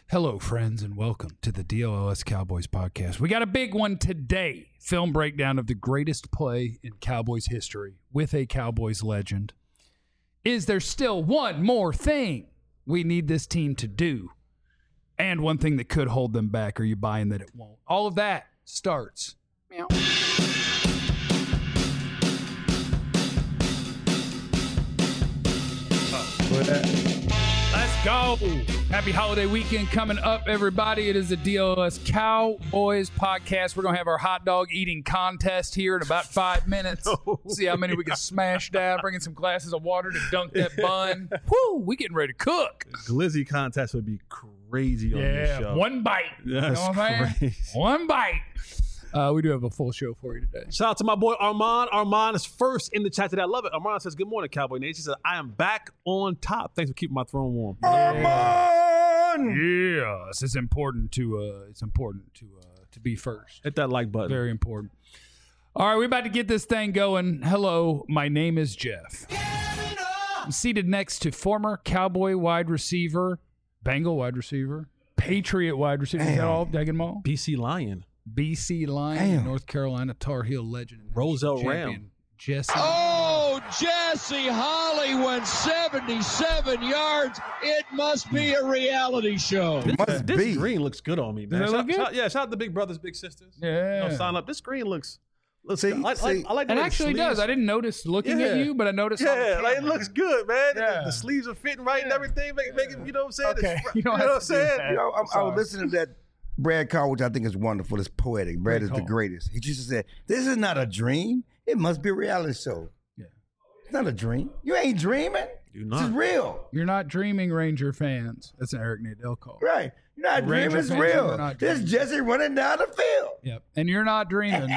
Hello, friends, and welcome to the DLS Cowboys podcast. We got a big one today. Film breakdown of the greatest play in Cowboys history with a Cowboys legend. Is there still one more thing we need this team to do? And one thing that could hold them back. Are you buying that it won't? All of that starts. Meow. Let's go. Happy holiday weekend coming up, everybody. It is the DLS Cowboys podcast. We're going to have our hot dog eating contest here in about 5 minutes. See how many we can smash down, bringing some glasses of water to dunk that bun. Woo, we getting ready to cook. Glizzy contest would be crazy on this show. One bite. You know what I'm saying? One bite. We do have a full show for you today. Shout out to my boy Armand. Armand is first in the chat today. I love it. Armand says, "Good morning, Cowboy Nation." He says, "I am back on top. Thanks for keeping my throne warm." Armand! Yes, it's important to be first. Hit that like button. Very important. All right, we're about to get this thing going. Hello, my name is Jeff. I'm seated next to former Cowboy wide receiver, Bengal wide receiver, Patriot wide receiver. Is that all? Did I get them all? BC Lion. BC Lion, North Carolina Tar Heel legend. Roselle Ram. Jesse. Oh, Jesse Holly went 77 yards. It must be a reality show. This green looks good on me, man. Does it look good? Shout out to Big Brothers, Big Sisters. Yeah. Sign up. This green looks See, I like the It way the actually sleeves- does. I didn't notice looking at you, but I noticed. on the Yeah, like it camera. looks good, man. Yeah. The sleeves are fitting right and everything. Make it, you know what I'm saying? Okay. It's You don't know have what to I'm do saying? that. You know, I was listening to that Brad Carr, which I think is wonderful. It's poetic. Brad is the call. greatest. He used to say, "This is not a dream. It must be a reality show." Yeah. It's not a dream. You ain't dreaming. You're This is not. real. You're not dreaming, Ranger fans. That's an Eric Nadell call. Right. You're not Ranger dreaming. It's fans are real. not This dreaming. Jesse running down the field. Yep. And you're not dreaming.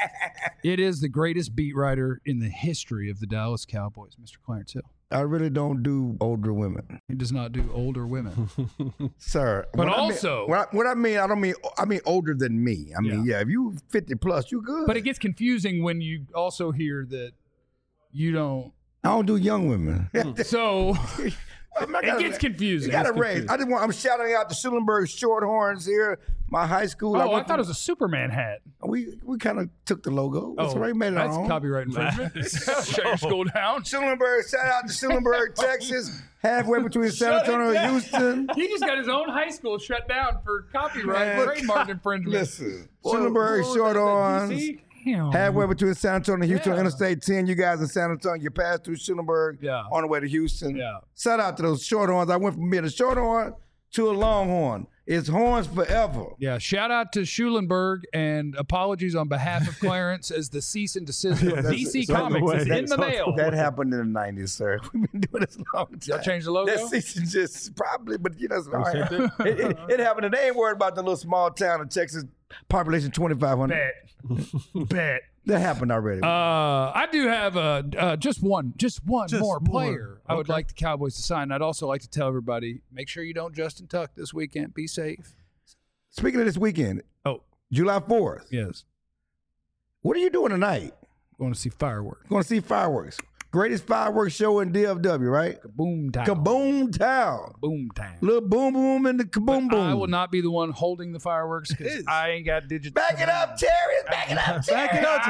It is the greatest beat writer in the history of the Dallas Cowboys, Mr. Clarence Hill. I really don't do older women, He does not do older women. sir. But What I mean- also- what I mean, I mean older than me. I mean, yeah, if you 50 plus, you good. But it gets confusing when you also hear that you don't. I don't do young women. So It it gets confusing. You got to It's raise. confusing. I'm shouting out the Schulenberg Shorthorns here, my high school. Oh, I went thought it to- was a Superman hat. We kind of took the logo. That's right, made it our That's own. copyright infringement. Shut your school down. Schulenberg, shout out to Schulenberg, Texas, halfway between San Antonio and Houston. He just got his own high school shut down for copyright Man, trademark infringement. Listen, Schulenberg Shorthorns, Damn. halfway between San Antonio and Houston, Yeah. Interstate 10. You guys in San Antonio, you pass through Schulenberg Yeah. on the way to Houston. Yeah. Shout out to those Shorthorns. I went from being a Shorthorn to a Longhorn. It's horns forever. Yeah, shout out to Schulenberg and apologies on behalf of Clarence as the cease and desist of DC it's on the Comics way. is in It's the on the mail. That happened in the 90s, sir. We've been doing this a long time. Y'all change the logo? That season just probably, but you know, it's all right. it happened, and they ain't worried about the little small town in Texas, population 2,500. Bet. That happened already. I do have just one more more. player I would Okay. like the Cowboys to sign. I'd also like to tell everybody, make sure you don't Justin Tuck this weekend. Be safe. Speaking of this weekend, Oh, July 4th, yes. what are you doing tonight? Going to see fireworks. Going to see fireworks. Greatest fireworks show in DFW, right? Boom town. Kaboom Town. Boom town. Little boom boom and the kaboom boom. I will not be the one holding the fireworks because I ain't got digital. Back it up, Terry. Back it up, Terry. Back it up.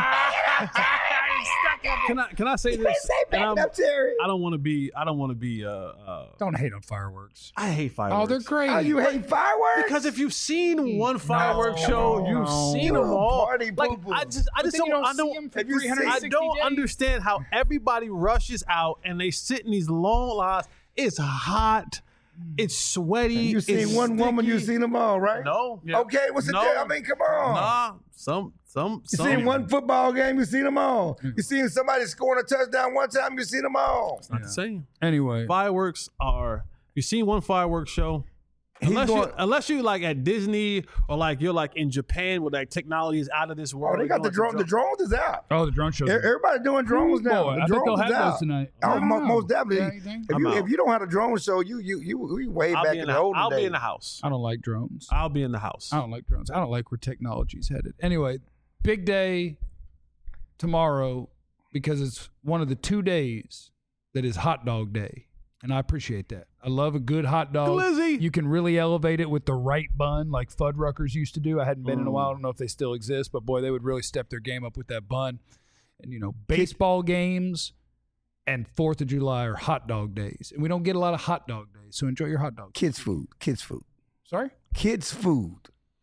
Can I say Say this? back And it up, Terry. I don't want to be. Don't hate on fireworks. I hate fireworks. Oh, they're great. Oh, you hate fireworks? Because if you've seen one fireworks No. show, you've seen You them a all. party Like poo-poo. I just But then you don't. I see don't. them for Have you seen- 360 I don't days. understand how everybody rushes out and they sit in these long lines. It's hot. It's sweaty. You seen it's one woman, you sticky. seen them all, right? No. Okay, what's the No. deal? I mean, come on. Nah. Some. You seen one football game, you seen them all. You seen somebody scoring a touchdown one time, you seen them all. Not the same. Anyway, Fireworks are. You seen one fireworks show? Unless you like at Disney or like you're like in Japan where like technology is out of this Oh, world. they got the drone. The drones is out. oh, the drone show. Everybody doing drones now. Boy, The I think they'll drones is have out. those tonight. Oh, I don't know. most definitely. Yeah, you think? I'm out. If you don't have a drone show, you way back in the olden I'll days. be in the house. I don't like drones. I'll be in the house. I don't like drones. I don't like where technology's headed. Anyway, big day tomorrow because it's one of the 2 days that is hot dog day And I appreciate that. I love a good hot dog. Glizzy. You can really elevate it with the right bun like Fuddruckers used to do. I hadn't been in a while. I don't know if they still exist, but boy, they would really step their game up with that bun. And, baseball games and 4th of July are hot dog days. And we don't get a lot of hot dog days, so enjoy your hot dog. Kids food. Sorry? Kids food.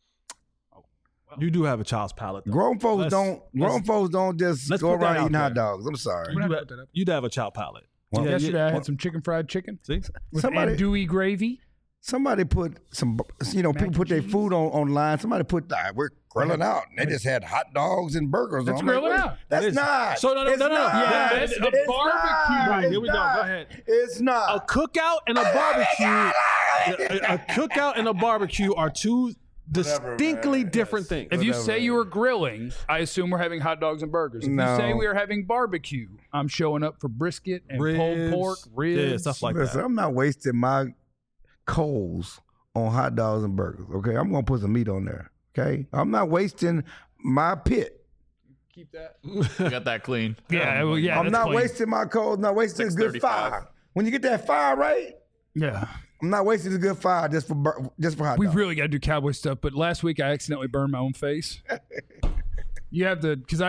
You do have a child's palate, though. Grown folks don't just go around eating hot dogs. I'm sorry. You do have a child palate. Well, yesterday I had some fried chicken. See? With andouille gravy. Somebody put some, people put their food online. Somebody put, we're grilling out. And they just had hot dogs and burgers That's on. grilling out. That's not. So, no. Yeah, It's a barbecue. Right, here we go. Go ahead. It's not. A cookout and a barbecue. A cookout and a barbecue are two distinctly different things. If you say you were grilling, I assume we're having hot dogs and burgers. If you say we are having barbecue, I'm showing up for brisket and pulled pork, ribs, stuff like Listen, that. I'm not wasting my coals on hot dogs and burgers, okay? I'm going to put some meat on there, okay? I'm not wasting my pit. Keep that. You got that clean. Yeah, I'm not clean. wasting my coals, not wasting a good fire. When you get that fire right, Yeah. I'm not wasting a good fire just for hot We dogs. really got to do cowboy stuff, but last week I accidentally burned my own face. You have to, because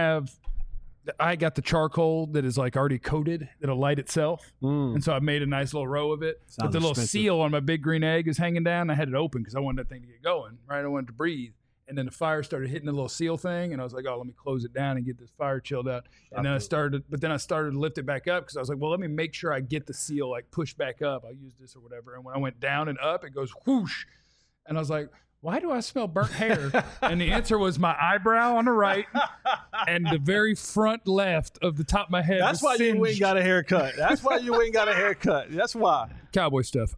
I got the charcoal that is like already coated that'll light itself. And so I made a nice little row of it. But the little seal on my big green egg is hanging down. I had it open because I wanted that thing to get going, right? I wanted to breathe. And then the fire started hitting the little seal thing, and I was like, "Oh, let me close it down and get this fire chilled out." And then I started to lift it back up because I was like, "Well, let me make sure I get the seal like pushed back up. I'll use this or whatever." And when I went down and up, it goes whoosh, and I was like, "Why do I smell burnt hair?" And the answer was my eyebrow on the right and the very front left of the top of my head. That's why you ain't got a haircut. That's why. Cowboy stuff.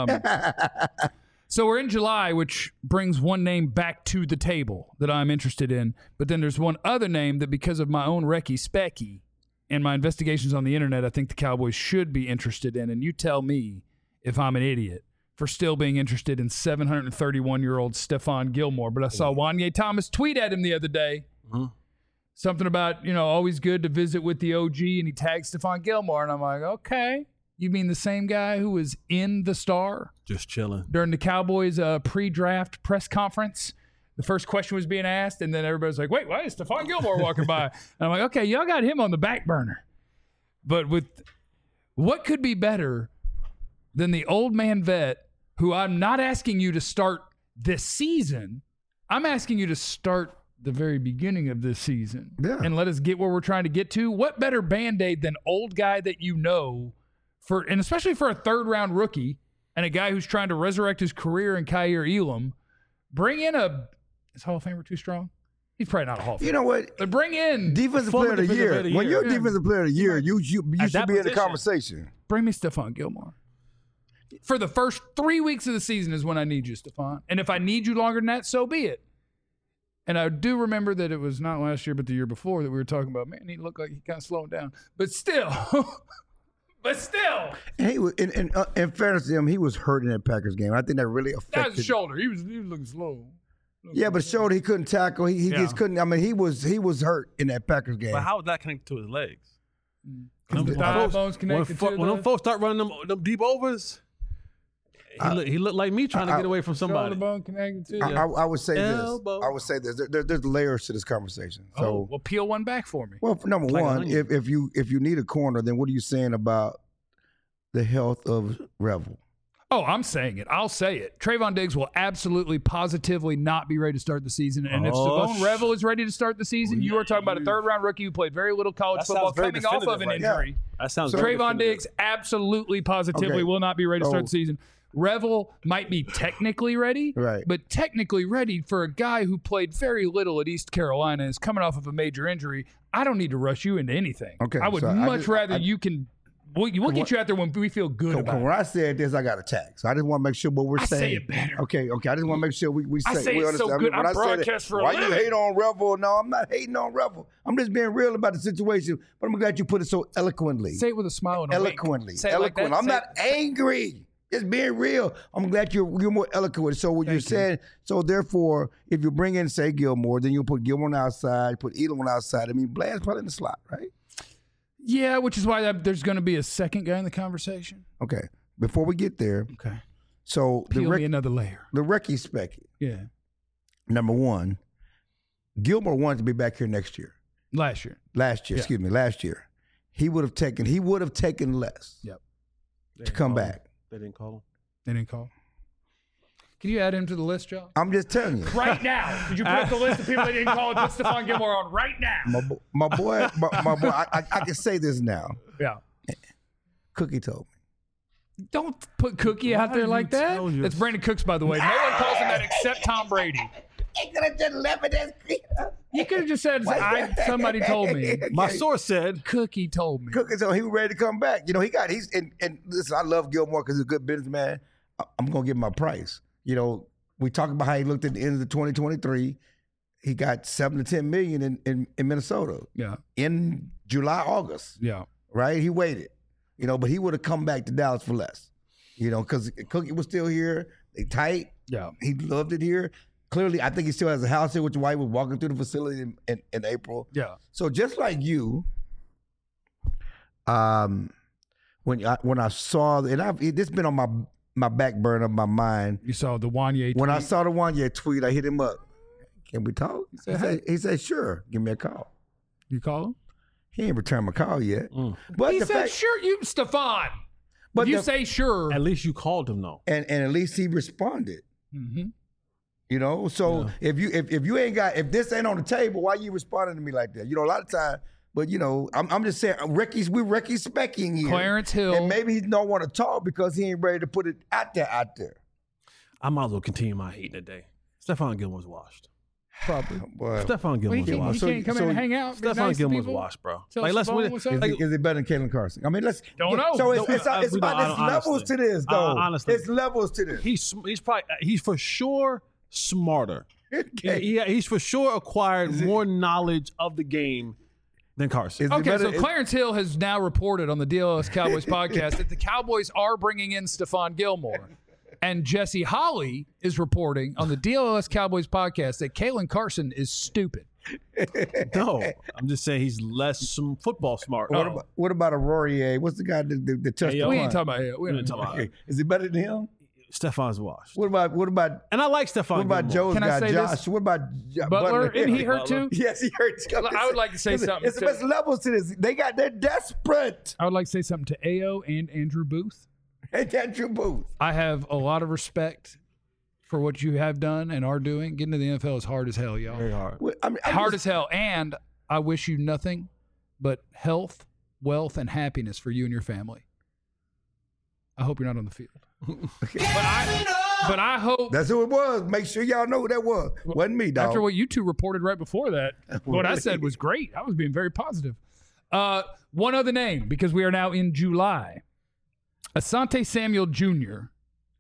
So we're in July, which brings one name back to the table that I'm interested in. But then there's one other name that, because of my own Recky Specky and my investigations on the internet, I think the Cowboys should be interested in. And you tell me if I'm an idiot for still being interested in 731-year-old Stephon Gilmore. But I saw Wanye Thomas tweet at him the other day. Something about, always good to visit with the OG, and he tagged Stephon Gilmore. And I'm like, okay. You mean the same guy who was in the Star? Just chilling. During the Cowboys pre-draft press conference, the first question was being asked, and then everybody's like, wait, why is Stephon Gilmore walking by? And I'm like, okay, y'all got him on the back burner. But with what could be better than the old man vet who I'm not asking you to start this season. I'm asking you to start the very beginning of this season and let us get where we're trying to get to. What better Band-Aid than old guy that and especially for a third-round rookie and a guy who's trying to resurrect his career in Kaiir Elam, bring in is Hall of Famer too strong? He's probably not a Hall of Famer. You know what? But bring in Defensive Player of the Year. When you're Defensive Player of the Year, you should be in the conversation. Bring me Stephon Gilmore. For the first 3 weeks of the season is when I need you, Stephon. And if I need you longer than that, so be it. And I do remember that it was not last year but the year before that we were talking about, man, he looked like he kind of slowed down. But still... And he was, in fairness to him, he was hurt in that Packers game. I think that really affected. That was his shoulder. He was looking slow. Yeah, but shoulder he couldn't tackle. He just couldn't. I mean, he was hurt in that Packers game. But how was that connected to his legs? The thigh bones connected when them folks start running them deep overs, he looked like me trying to get away from somebody. Shoulder bone connected to I would say elbow. this. I would say this. There's layers to this conversation. So, well, peel one back for me. Well, for number one, if you need a corner, then what are you saying about the health of Revel? Oh, I'm saying it. I'll say it. Trayvon Diggs will absolutely, positively not be ready to start the season. And if Savone Revel is ready to start the season, you are talking about a third-round rookie who played very little college football coming off of an injury. That sounds Trayvon Diggs absolutely, positively will not be ready to start the season. Revel might be technically ready, but technically ready for a guy who played very little at East Carolina and is coming off of a major injury. I don't need to rush you into anything. Okay, I would much rather you can... We'll get you out there when we feel good about it. When I said this, I got attacked. So I just want to make sure what we're saying. I say it better. Okay. I just want to make sure we say. I say we it so good. I broadcast for a living. Why you hate on Revel? No, I'm not hating on Revel. I'm just being real about the situation. But I'm glad you put it so eloquently. Say it with a smile and a eloquently. Say eloquent. Like I'm not angry. Just being real. I'm glad you're more eloquent. So what you're saying. So therefore, if you bring in say Gilmore, then you'll put Gilmore on the outside, put Elam on the outside. I mean, Bland's probably in the slot, right? Yeah, which is why there's going to be a second guy in the conversation. Okay. Before we get there, Okay. so Peel me another layer. the Recky Specky, Yeah. number one, Gilmore wanted to be back here next year. Last year. Last year. He would have taken less Yep. to come back. They didn't call him. They didn't call. Can you add him to the list, Joe? I'm just telling you. Right now. Could you put up the list of people that didn't call and put Stephon Gilmore on right now? My boy, I can say this now. Yeah. Cookie told me. Don't put Cookie out there like that. That's Brandon Cooks, by the way. No one calls him that except Tom Brady. He could have just left it as You could have just said, somebody told me. My source said Cookie told me. Cookie told me he was ready to come back. You know, he's listen, I love Gilmore because he's a good businessman. I'm gonna give him my price. You know, we talk about how he looked at the end of the 2023. He got $7 to $10 million in Minnesota. Yeah. In July, August. Yeah. Right? He waited. You know, but he would have come back to Dallas for less. You know, because Cookie was still here. They tight. Yeah. He loved it here. Clearly, I think he still has a house here, which is why he was walking through the facility in April. Yeah. So just like you, when I saw, and this been on my back burner of my mind. You saw the Wanye tweet. When I saw the Wanye tweet, I hit him up. Can we talk? He said, sure. Give me a call. You call him? He ain't returned my call yet. But He said, sure, Stephon. But if you say sure. at least you called him though. And at least he responded. Mm-hmm. You know, so if you ain't got, if this ain't on the table, why you responding to me like that? You know, a lot of time, but you know, I'm just saying, we're Recky Specking here. Clarence Hill. And maybe he don't want to talk because he ain't ready to put it out there. I might as well continue my hate today. Stephon Gilmore's washed. Probably. Boy. Stephon Gilmore's He washed. can't come in and hang out. be Stephon nice to Gilmore's people. washed, bro. Tell Like, let's Stephon win. what's up. Is it better than Kalen Carson? I mean, let's Don't know. So it's We about don't, it's levels to this, though. honestly. It's levels to this. He's for sure smarter. Okay. He's for sure acquired more knowledge of the game than Carson. Is it Okay, better- so Clarence Hill has now reported on the DLS Cowboys podcast that the Cowboys are bringing in Stephon Gilmore. And Jesse Holley is reporting on the DLS Cowboys podcast that Kalen Carson is stupid. No, I'm just saying he's less football smart. What about a Rory? What's the guy that touched the We punt? ain't talking about him. We ain't talking about Okay. Is he better than him? Stephon's washed. What about And I like Stephon what about Gilmore. Joe's Can I guy, say Josh? this? What about Butler? Isn't he hurt too? Yes, he hurt. I would like to say something It's to- levels to this. They're desperate. I would like to say something to Ao and Andrew Booth. And Andrew Booth. I have a lot of respect for what you have done and are doing. Getting to the NFL is hard as hell, y'all. Very hard. I mean, Hard as hell. And I wish you nothing but health, wealth, and happiness for you and your family. I hope you're not on the field. But I hope That's who it was. Make sure y'all know who that was. Wasn't me, dog. after what you two reported right before that, what I said was great. I was being very positive. One other name, because we are now in July. Asante Samuel Jr.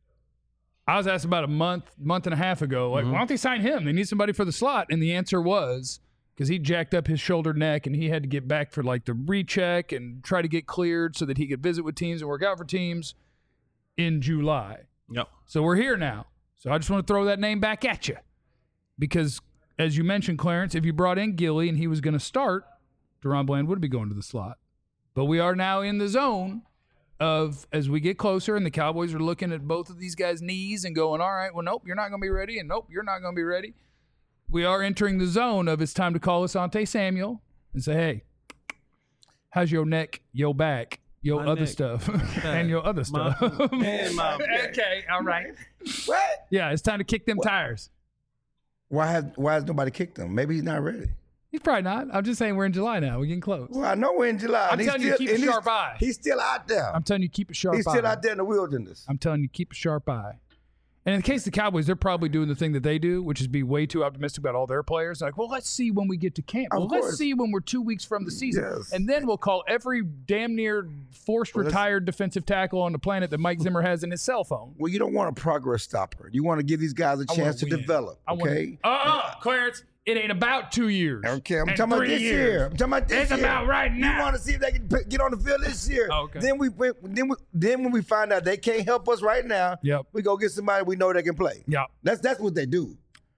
I was asked about a month and a half ago, like, why don't they sign him? They need somebody for the slot. And the answer was, because he jacked up his shoulder neck and he had to get back for like the recheck and try to get cleared so that he could visit with teams and work out for teams in July. Yep. So we're here now. So I just want to throw that name back at you. Because, as you mentioned, Clarence, if you brought in Gilly and he was going to start, Deron Bland would be going to the slot. But we are now in the zone of, as we get closer and the Cowboys are looking at both of these guys' knees and going, all right, well, nope, you're not going to be ready, and nope, you're not going to be ready. We are entering the zone of it's time to call Asante Samuel and say, hey, how's your neck, your back, your My other neck, stuff, and your other stuff? Okay, all right. What? Yeah, it's time to kick them tires. Why has nobody kicked him? Maybe he's not ready. He's probably not. I'm just saying we're in July now. We're getting close. Well, I know we're in July. I'm and telling you, keep a sharp eye. He's still out there. I'm telling you, keep a sharp eye. He's still out there in the wilderness. I'm telling you, keep a sharp eye. And in the case of the Cowboys, they're probably doing the thing that they do, which is be way too optimistic about all their players. Like, well, let's see when we get to camp. Of Well, course. let's see when we're 2 weeks from the season. Yes. And then we'll call every damn near forced retired defensive tackle on the planet that Mike Zimmer has in his cell phone. Well, you don't want a progress stopper. You want to give these guys a chance to win. develop. Okay. Clarence, it ain't about 2 years. Okay, I'm and talking about 3 this years. year. I'm talking about this It's year. about right now. You want to see if they can get on the field this year. Oh, okay. Then when we find out they can't help us right now, Yep. we go get somebody we know that can play. Yeah. That's what they do.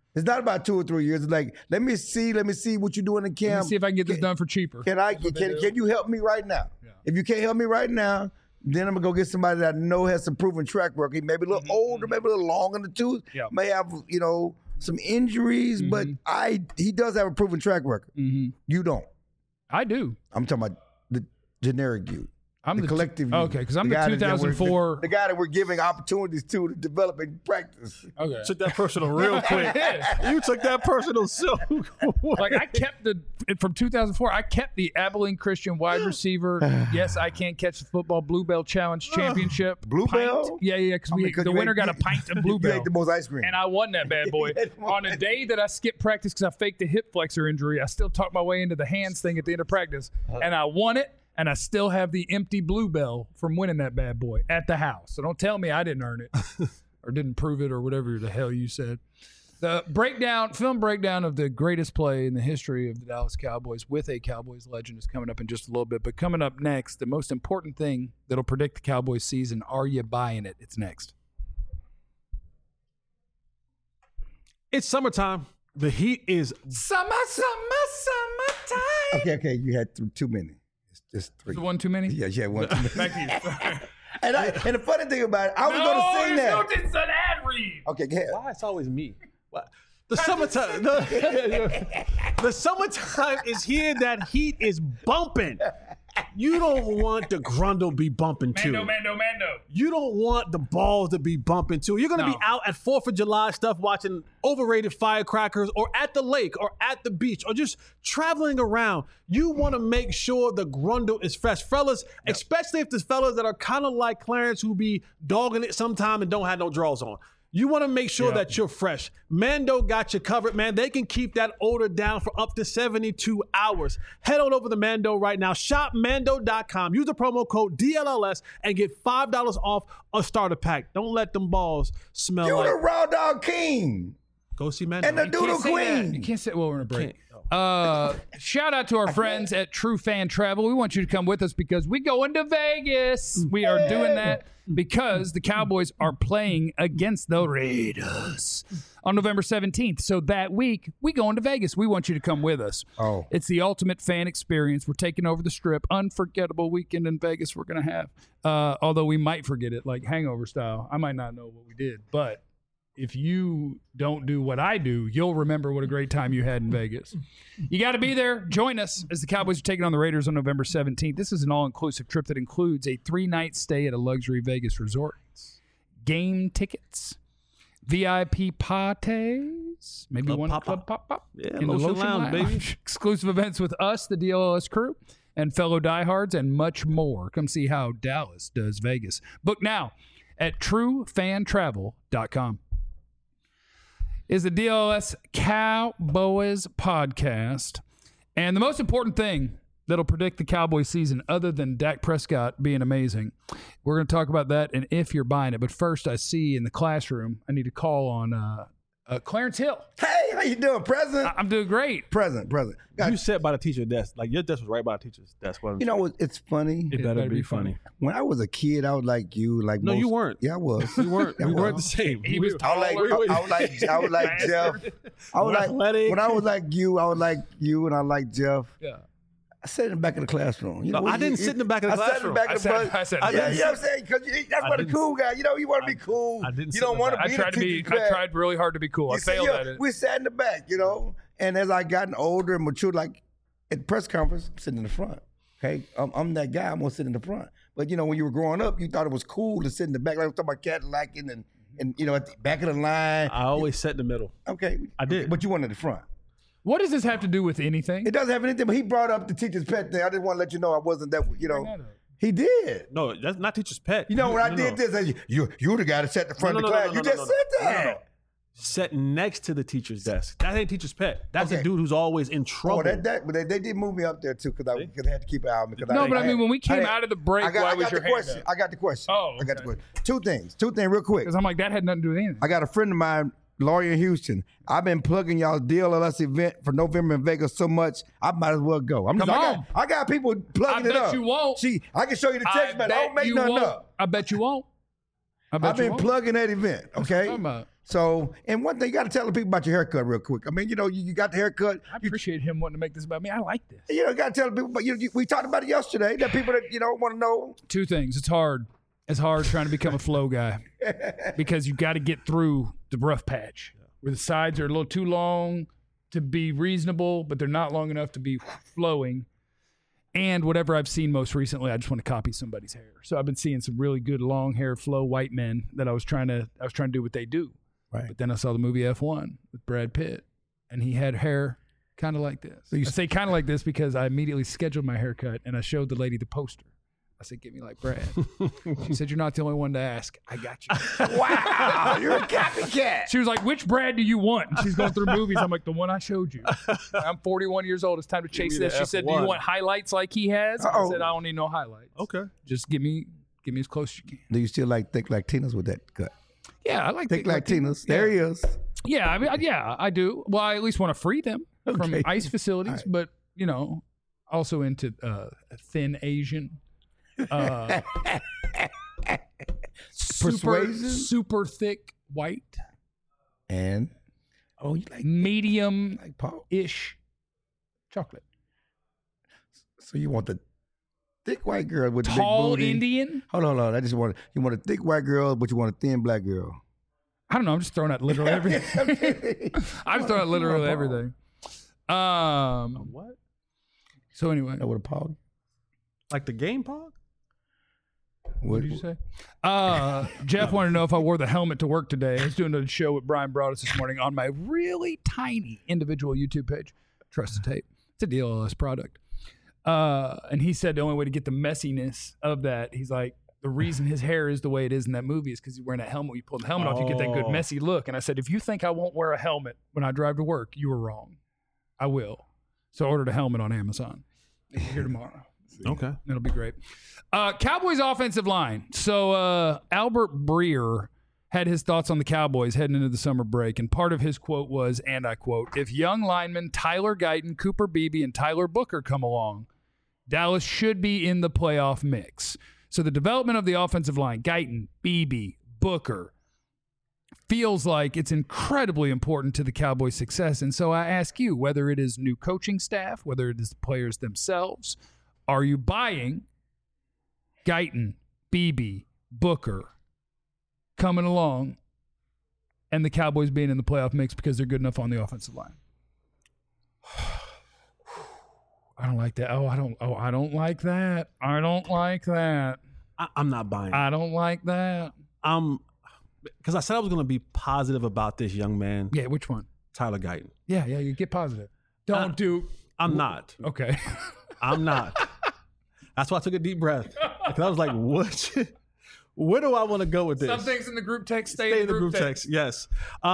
It's not about 2 or 3 years. It's like, let me see what you're doing in camp. Let me see if I can get this done for cheaper. Can you help me right now? Yeah. If you can't help me right now, then I'm gonna go get somebody that I know has some proven track record. He may be a little older, maybe a little long in the tooth. Yeah. May have some injuries, but he does have a proven track record. You don't. I do. I'm talking about the generic you. I'm the collective. Okay, because I'm the 2004. The guy that we're giving opportunities to develop and practice. Okay. Took that personal real quick. You took that personal so like I kept from 2004. I kept the Abilene Christian wide receiver. Yes, I can't catch the football Bluebell Challenge Championship. Bluebell? Yeah, because the winner got a pint of Bluebell. You ate the most ice cream. And I won that bad boy. On a day that I skipped practice because I faked a hip flexor injury, I still talked my way into the hands thing at the end of practice, and I won it. And I still have the empty Bluebell from winning that bad boy at the house. So don't tell me I didn't earn it or didn't prove it or whatever the hell you said. The film breakdown of the greatest play in the history of the Dallas Cowboys with a Cowboys legend is coming up in just a little bit. But coming up next, the most important thing that'll predict the Cowboys season, are you buying it? It's next. It's summertime. The heat is summertime. Okay. You had too many. Just 3. Is one too many? Yeah, one too many. Back to you. And the funny thing about it, I was going to sing that. No, it's an ad read. Okay, go ahead. Why it's always me? What? The summertime. The summertime is here. That heat is bumping. You don't want the grundle be bumping too. Mando. You don't want the balls to be bumping too. You're going to be out at 4th of July stuff watching overrated firecrackers or at the lake or at the beach or just traveling around. You want to make sure the grundle is fresh. Fellas, especially if there's fellas that are kind of like Clarence who be dogging it sometime and don't have no drawers on. You want to make sure that you're fresh. Mando got you covered, man. They can keep that odor down for up to 72 hours. Head on over to Mando right now. Shop Mando.com. Use the promo code DLLS and get $5 off a starter pack. Don't let them balls smell You're like... the Raw Dog King. Go see Mando. And the Doodle Queen. You can't say, well, we're in a break. Shout out to our friends at True Fan Travel. We want you to come with us because we going to Vegas. We are doing that because the Cowboys are playing against the Raiders on November 17th. So that week, we going to Vegas. We want you to come with us. Oh. It's the ultimate fan experience. We're taking over the Strip. Unforgettable weekend in Vegas we're going to have. Although we might forget it, like hangover style. I might not know what we did, but if you don't do what I do, you'll remember what a great time you had in Vegas. You got to be there. Join us as the Cowboys are taking on the Raiders on November 17th. This is an all-inclusive trip that includes a 3-night stay at a luxury Vegas resort, game tickets, VIP parties, maybe one club pop. Yeah, in the Lotion Lounge, baby. Exclusive events with us, the DLLS crew, and fellow diehards, and much more. Come see how Dallas does Vegas. Book now at truefantravel.com. Is the DLS Cowboys podcast. And the most important thing that'll predict the Cowboys season, other than Dak Prescott being amazing, we're going to talk about that and if you're buying it. But first, I see in the classroom, I need to call on Clarence Hill. Hey, how you doing, Present? I'm doing great. Present. You sat by the teacher's desk. Like, your desk was right by the teacher's desk. You know, it's funny. It better be funny. When I was a kid, I was like you. No, you weren't. Yeah, I was. You weren't. We weren't the same. He was I was like Jeff. I was like, when I was like you, and I like Jeff. Yeah. I sat in the back of the classroom. You know, I didn't sit in the back of the classroom. I said, you know what I'm saying? Because that's what the cool guy. You know, you want to be cool. I didn't. You don't want to be. I tried really hard to be cool. I failed at it. We sat in the back, you know, and as I gotten older and matured, like at press conference, I'm sitting in the front. Okay, I'm that guy. I'm gonna sit in the front. But you know, when you were growing up, you thought it was cool to sit in the back. Like I'm talking about Cadillacing and you know, at the back of the line. I always sat in the middle. Okay, I did. But you wanted the front. What does this have to do with anything? It doesn't have anything, but he brought up the teacher's pet thing. I didn't want to let you know I wasn't that, you know. He did. No, that's not teacher's pet. You know, when I did this, you're the guy that sat in the front of the class. You just said that. No. Sat next to the teacher's desk. That ain't teacher's pet. That's a dude who's always in trouble. But they did move me up there too because I had to keep an eye on me. No, but I mean, when we came out of the break, why was your hand up? I got the question. Oh, okay. I got the question. Two things real quick. Because I'm like, that had nothing to do with anything. I got a friend of mine, lawyer in Houston. I've been plugging y'all's DLLS event for November in Vegas so much, I might as well go. I got people plugging it up. I bet you won't. See, I can show you the text, man. I don't make nothing up. I bet you won't. bet I've you been won't. plugging that event. What Okay. you talking about? So, and one thing you got to tell the people about your haircut real quick. I mean, you got the haircut. I appreciate him wanting to make this about me. I like this. You got to tell the people. But we talked about it yesterday. That people that want to know. Two things. It's hard. It's hard trying to become a flow guy because you got to get through the rough patch where the sides are a little too long to be reasonable, but they're not long enough to be flowing. And whatever I've seen most recently, I just want to copy somebody's hair. So I've been seeing some really good long hair flow white men that I was trying to do what they do. Right. But then I saw the movie F1 with Brad Pitt, and he had hair kind of like this. I say kind of like this because I immediately scheduled my haircut, and I showed the lady the poster. I said, "Get me like Brad." She said, "You're not the only one to ask. I got you." Wow, you're a copycat. She was like, "Which Brad do you want?" And she's going through movies. I'm like, "The one I showed you." I'm 41 years old. It's time to chase me the this. She said, "Do you F1. want highlights like he has?" I said, "I don't need no highlights. Okay. Just give me as close as you can." Do you still like thick Latinas with that cut? Yeah, I like Thick thick Latinas. There he is. Yeah, I mean, yeah, I do. Well, I at least want to free them from Okay. ICE facilities, but also into thin Asian. Persuasion? super thick white, And you like medium Paul? ish chocolate. So you want the thick white girl with the Tall big booty? Indian. Hold on. You want a thick white girl, but you want a thin black girl. I don't know. I'm just throwing out literally everything. I'm throwing out literally everything. What? So anyway, Know what a pog? Like the game pog? what did you say? Jeff wanted to know if I wore the helmet to work today. I was doing a show with Brian Broaddus this morning on my really tiny individual YouTube page, Trusted Tape. It's a DLS product. And he said the only way to get the messiness of that, he's like, the reason his hair is the way it is in that movie is because he's wearing a helmet. When you pull the helmet off, you get that good messy look. And I said, if you think I won't wear a helmet when I drive to work, you were wrong. I will. So I ordered a helmet on Amazon. It's here tomorrow. Okay. It'll be great. Cowboys offensive line. So Albert Breer had his thoughts on the Cowboys heading into the summer break, and part of his quote was, and I quote, "If young linemen Tyler Guyton, Cooper Beebe, and Tyler Booker come along, Dallas should be in the playoff mix." So the development of the offensive line, Guyton, Beebe, Booker, feels like it's incredibly important to the Cowboys' success. And so I ask you, whether it is new coaching staff, whether it is the players themselves, are you buying Guyton, Beebe, Booker coming along and the Cowboys being in the playoff mix because they're good enough on the offensive line? I don't like that. I don't like that. I don't like that. I'm not buying it. I don't like that. Because I said I was going to be positive about this young man, Yeah, which one? Tyler Guyton. Yeah, you get positive. Don't do. I'm not. Okay. I'm not. That's why I took a deep breath. Because I was like, what? Where do I want to go with this? Some things in the group text stay Stay in the group text. Yes.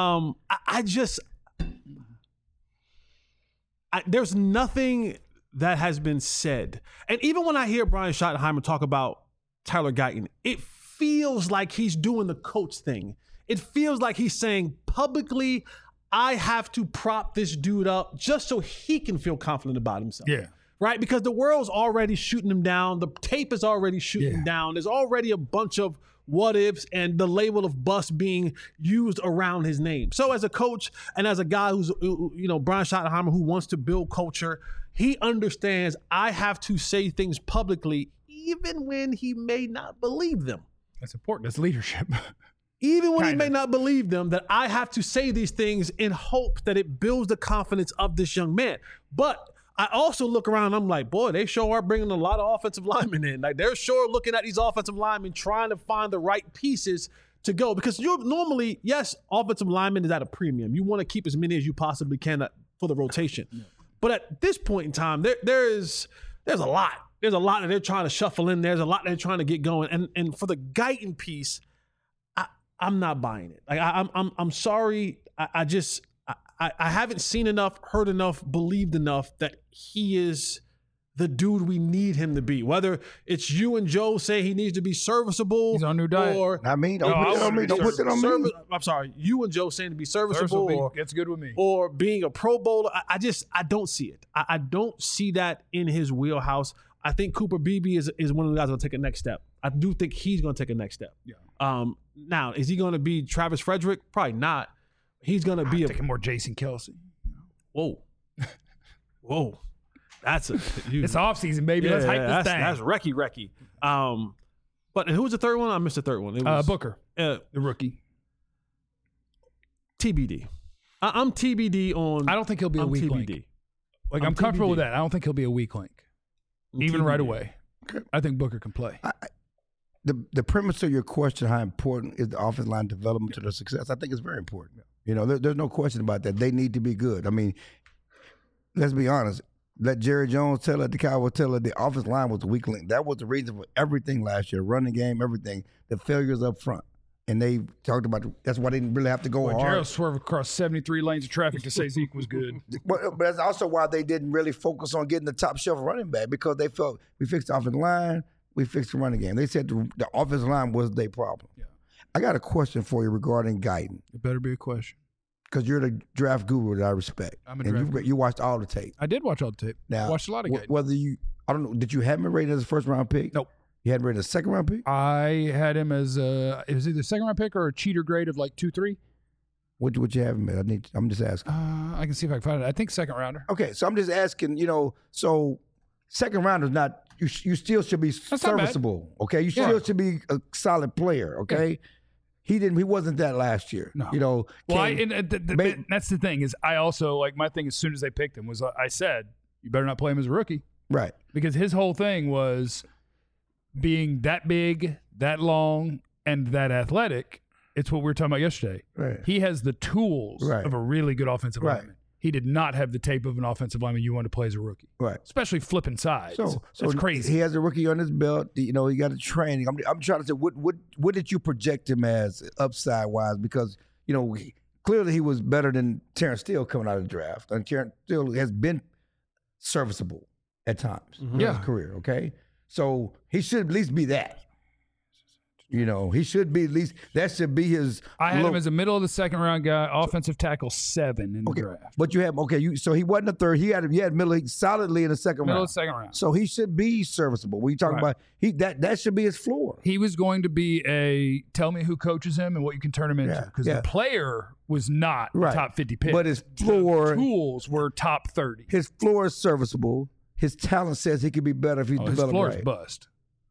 There's nothing that has been said. And even when I hear Brian Schottenheimer talk about Tyler Guyton, it feels like he's doing the coach thing. It feels like he's saying publicly, I have to prop this dude up just so he can feel confident about himself. Yeah. Right? Because the world's already shooting him down. The tape is already shooting him down. There's already a bunch of what ifs and the label of bust being used around his name. So as a coach and as a guy who's, Brian Schottenheimer, who wants to build culture, he understands I have to say things publicly even when he may not believe them. That's important. That's leadership. Even when he may not believe them, that I have to say these things in hope that it builds the confidence of this young man. But I also look around and I'm like, boy, they sure are bringing a lot of offensive linemen in. Like they're sure looking at these offensive linemen trying to find the right pieces to go. Because you're normally, yes, offensive lineman is at a premium. You want to keep as many as you possibly can for the rotation. Yeah. But at this point in time, there's a lot. There's a lot that they're trying to shuffle in. There's a lot they're trying to get going. And for the Guyton piece, I'm not buying it. Like I'm sorry. I haven't seen enough, heard enough, believed enough that he is the dude we need him to be. Whether it's you and Joe say he needs to be serviceable. He's on new diet. Or, Not me. Don't put it on me. Don't put it on me. I'm sorry. You and Joe saying to be serviceable. Or, gets good with me. Or being a Pro Bowler. I don't see it. I don't see that in his wheelhouse. I think Cooper Beebe is one of the guys that'll take a next step. I do think he's going to take a next step. Yeah. Now, is he going to be Travis Frederick? Probably not. He's going to be I'm thinking more Jason Kelsey. Whoa. Whoa. That's a it's offseason, baby. Let's hype this thing. That's Recky. But who was the third one? I missed the third one. It was Booker, the rookie. TBD. I'm TBD on. I don't think he'll be a weak link. Like I'm comfortable with that. I don't think he'll be a weak link, even right away. I think Booker can play. The premise of your question, how important is the offensive line development to their success? I think it's very important. You know, there's no question about that. They need to be good. I mean, let's be honest. Let Jerry Jones tell it, the Cowboys tell it, the offensive line was the weak link. That was the reason for everything last year, running game, everything, the failures up front. And they talked about that's why they didn't really have to go hard. Gerald swerved across 73 lanes of traffic to say Zeke was good. But that's also why they didn't really focus on getting the top shelf running back, because they felt we fixed the offensive line, we fixed the running game. They said the offensive line was their problem. Yeah. I got a question for you regarding Guyton. It better be a question. Because you're the draft guru that I respect. I'm a draft guru. You watched all the tape. I did watch all the tape. Now, I watched a lot of Guyton. Whether I don't know, did you have him rated as a first-round pick? Nope. You had him rated as a second-round pick? I had him as it was either second-round pick or a cheater grade of like 2-3. What you have him at? I'm just asking. I can see if I can find it. I think second-rounder. Okay, so I'm just asking, so second-round is not – you still should be serviceable, okay? You still should be a solid player, okay? Yeah. He wasn't that last year. No. That's the thing is I also, like, my thing as soon as they picked him was I said, you better not play him as a rookie. Right. Because his whole thing was being that big, that long, and that athletic. It's what we were talking about yesterday. Right. He has the tools of a really good offensive lineman. He did not have the tape of an offensive lineman you want to play as a rookie. Right. Especially flipping sides. So that's crazy. He has a rookie on his belt. He got a training. I'm trying to say, what did you project him as upside-wise? Because, clearly he was better than Terrence Steele coming out of the draft. And Terrence Steele has been serviceable at times in his career, okay? So he should at least be that. He should be at least – that should be his – I had him as a middle of the second round guy, offensive tackle 7 in the draft. But you have – so he wasn't a third. He had middle solidly in the second round. Middle of the second round. So he should be serviceable. When you talk about – that should be his floor. He was going to be tell me who coaches him and what you can turn him into. Because the player was not a top 50 pick. But his floor – the tools were top 30. His floor is serviceable. His talent says he could be better if he developed right. His floor is bust.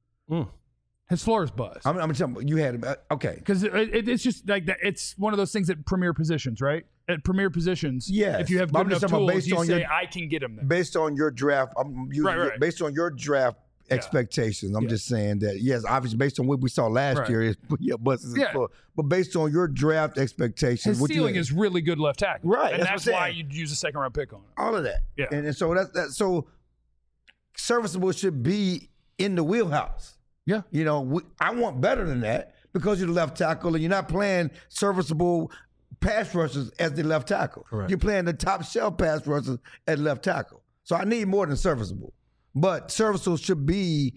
His floor is bust. I'm talking. You had him. Okay. Because it's just like that. It's one of those things at premier positions, right? At premier positions, if you have good enough tools, you say, I can get him there. Based on your draft, based on your draft expectations, I'm just saying that, yes, obviously based on what we saw last year, busts his floor. But based on your draft expectations. His ceiling is really good left tackle. Right. And that's why you'd use a second round pick on him. All of that. Yeah. And so that's so serviceable should be in the wheelhouse. Yeah. I want better than that because you're the left tackle and you're not playing serviceable pass rushers as the left tackle. Correct. You're playing the top shelf pass rushers at left tackle. So I need more than serviceable. But serviceable should be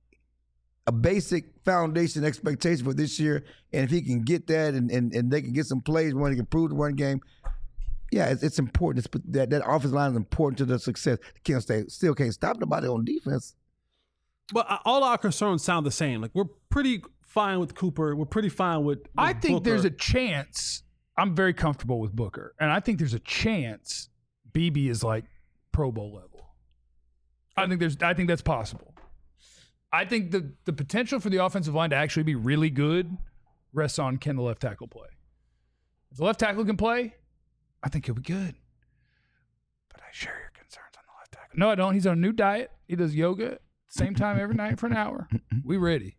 a basic foundation expectation for this year. And if he can get that and they can get some plays when he can improve the run game, it's important. That offensive line is important to their success. Still can't stop nobody on defense. But all our concerns sound the same. Like, we're pretty fine with Cooper. We're pretty fine with I think Booker. There's a chance. I'm very comfortable with Booker. And I think there's a chance BB is like Pro Bowl level. I think that's possible. I think the potential for the offensive line to actually be really good rests on can the left tackle play. If the left tackle can play, I think he'll be good. But I share your concerns on the left tackle. No, I don't. He's on a new diet. He does yoga. Same time every night for an hour. We ready.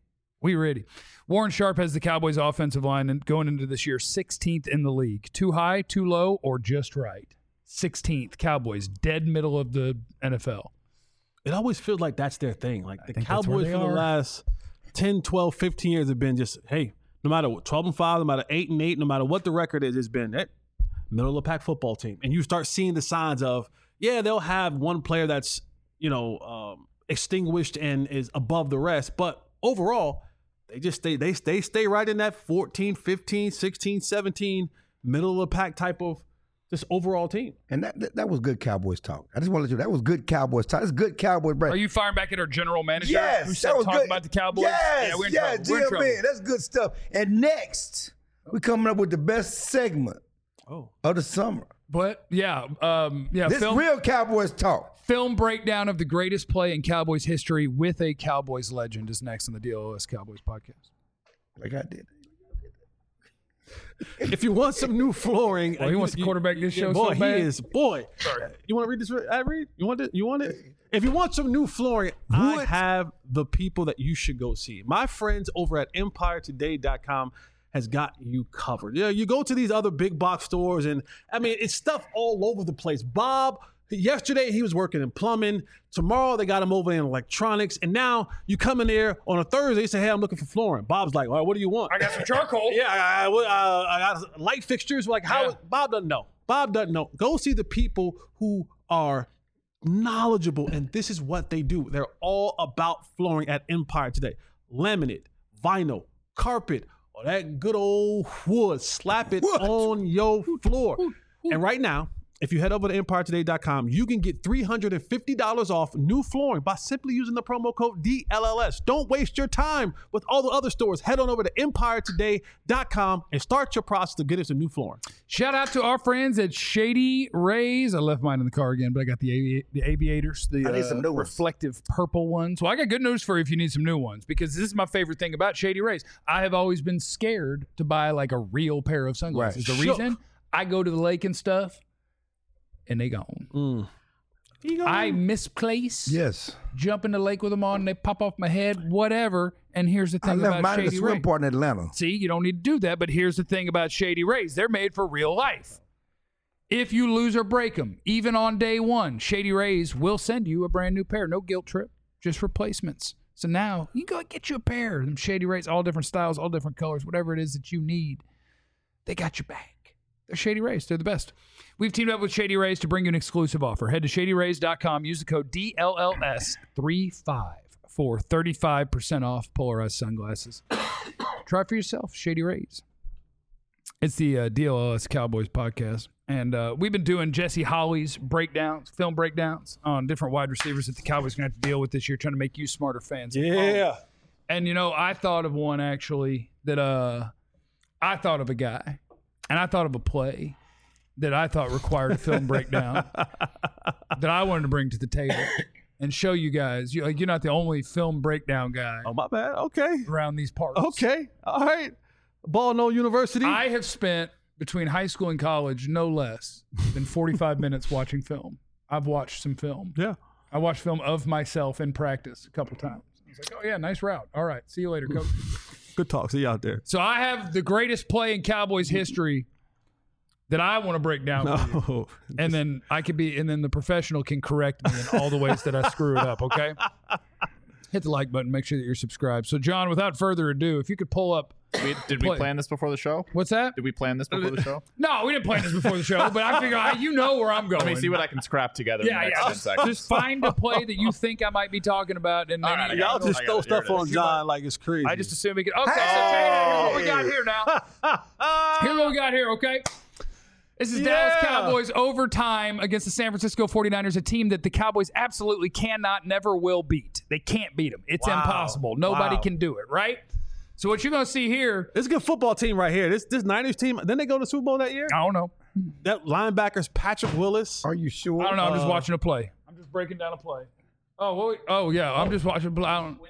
Warren Sharp has the Cowboys offensive line and going into this year 16th in the league. Too high, too low, or just right? 16th. Cowboys, dead middle of the NFL. It always feels like that's their thing. Like the Cowboys for the last 10, 12, 15 years have been just, hey, no matter what, 12-5, no matter 8-8, no matter what the record is, it's been middle of the pack football team. And you start seeing the signs of, they'll have one player that's, extinguished and is above the rest, but overall they stay right in that 14, 15, 16, 17 middle of the pack type of this overall team. And that was good Cowboys talk. I just want to let you know, that was good Cowboys talk. That's good Cowboys break. Are you firing back at our general manager? Yes, who said that was talk good. about the Cowboys? Yes, yeah, we're in yeah, trouble. We're in trouble. GM, that's good stuff. And next, we're coming up with the best segment of the summer. But This real Cowboys talk. Film breakdown of the greatest play in Cowboys history with a Cowboys legend is next on the DLOS Cowboys podcast. Like I did. If you want some new flooring, Well, he wants to quarterback this show boy, so bad. he is. Boy, you want to read this? I read. You want it? You want it? If you want some new flooring, I have the people that you should go see. My friends over at EmpireToday.com has got you covered. Yeah, you go to these other big box stores, and I mean, it's stuff all over the place. Bob, yesterday he was working in plumbing. Tomorrow they got him over in electronics, and now you come in there on a Thursday. You say, "Hey, I'm looking for flooring." Bob's like, "All right, what do you want?" I got some charcoal. Yeah, I got light fixtures. Like, how? Yeah. Bob doesn't know. Bob doesn't know. Go see the people who are knowledgeable, and this is what they do. They're all about flooring at Empire Today. Laminate, vinyl, carpet, or that good old wood. Slap it on your floor. And right now, if you head over to EmpireToday.com, you can get $350 off new flooring by simply using the promo code DLLS. Don't waste your time with all the other stores. Head on over to EmpireToday.com and start your process to get us a new flooring. Shout out to our friends at Shady Rays. I left mine in the car again, but I got the aviators, the I need some new ones. reflective purple ones. Well, I got good news for you if you need some new ones, because this is my favorite thing about Shady Rays. I have always been scared to buy like a real pair of sunglasses. Right. The reason I go to the lake and stuff, and they gone. I misplace. Yes. Jump in the lake with them on, and they pop off my head, whatever. And here's the I thing left about mine in the Shady swim Rays. part in Atlanta. See, you don't need to do that, but here's the thing about Shady Rays. They're made for real life. If you lose or break them, even on day one, Shady Rays will send you a brand new pair. No guilt trip, just replacements. So now you can go get you a pair of them Shady Rays, all different styles, all different colors, whatever it is that you need. They got your back. They're Shady Rays. They're the best. We've teamed up with Shady Rays to bring you an exclusive offer. Head to ShadyRays.com. Use the code DLLS35 for 35% off polarized sunglasses. Try it for yourself. Shady Rays. It's the DLLS Cowboys podcast. And we've been doing Jesse Holley's breakdowns, film breakdowns on different wide receivers that the Cowboys are going to have to deal with this year, trying to make you smarter fans. Yeah. And, you know, I thought of one actually that I thought of a guy, and I thought of a play that I thought required a film breakdown that I wanted to bring to the table and show you guys. You're not the only film breakdown guy Oh, my bad. Okay. around these parts. Okay. All right. Ball No University. I have spent between high school and college no less than 45 minutes watching film. I've watched some film. Yeah. I watched film of myself in practice a couple times. I was like, oh, yeah, nice route. All right. See you later, coach. Good talk. See you out there. So I have the greatest play in Cowboys history that I want to break down for you. Oh. And then the professional can correct me in all the ways that I screw it up, okay? Hit the like button, make sure that you're subscribed. So, John, without further ado, if you could pull up. Did we plan this before the show? What's that? Did we plan this before the show? No, we didn't plan this before the show, but I figure you know where I'm going. Let me see what I can scrap together in the next 10 seconds. Just find a play that you think I might be talking about. And then All right, I Y'all got it. just throw Here stuff it on is. John like it's crazy. I just assume we could. Okay, so here's what we got here now. Here's what we got here, okay? This is Dallas Cowboys overtime against the San Francisco 49ers, a team that the Cowboys absolutely cannot, never will beat. They can't beat them. It's impossible. Nobody can do it, right? So what you're going to see here. This is a good football team right here. This Niners team, didn't they go to the Super Bowl that year? I don't know. That linebacker's Patrick Willis. Are you sure? I don't know. I'm just watching a play. I'm just breaking down a play. Oh, yeah. I'm just watching a play.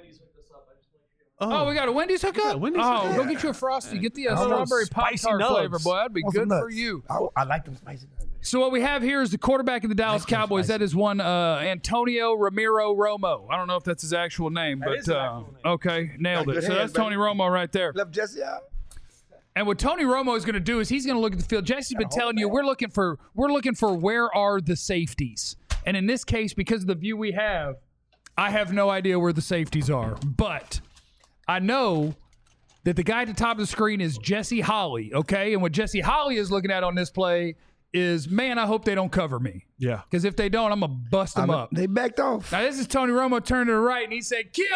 Oh, we got a Wendy's hookup? Wendy's go hookup. get you a Frosty. Get the know, strawberry spicy Pop-Tart nugs. flavor, boy. That'd be Want good some nuts? for you. I like them spicy nuts. So what we have here is the quarterback of the Dallas Cowboys. That is one Antonio Ramiro Romo. I don't know if that's his actual name, but is his actual name. okay, nailed Got it. good So hands, that's Tony baby. Romo right there. Left Jesse out. And what Tony Romo is going to do is he's going to look at the field. Jesse's been telling you we're looking for where are the safeties. And in this case, because of the view we have, I have no idea where the safeties are. But I know that the guy at the top of the screen is Jesse Holley, okay? And what Jesse Holley is looking at on this play is, man, I hope they don't cover me. Yeah. Because if they don't, I'm going to bust them up. They backed off. Now, this is Tony Romo turning to the right, and he said, kill.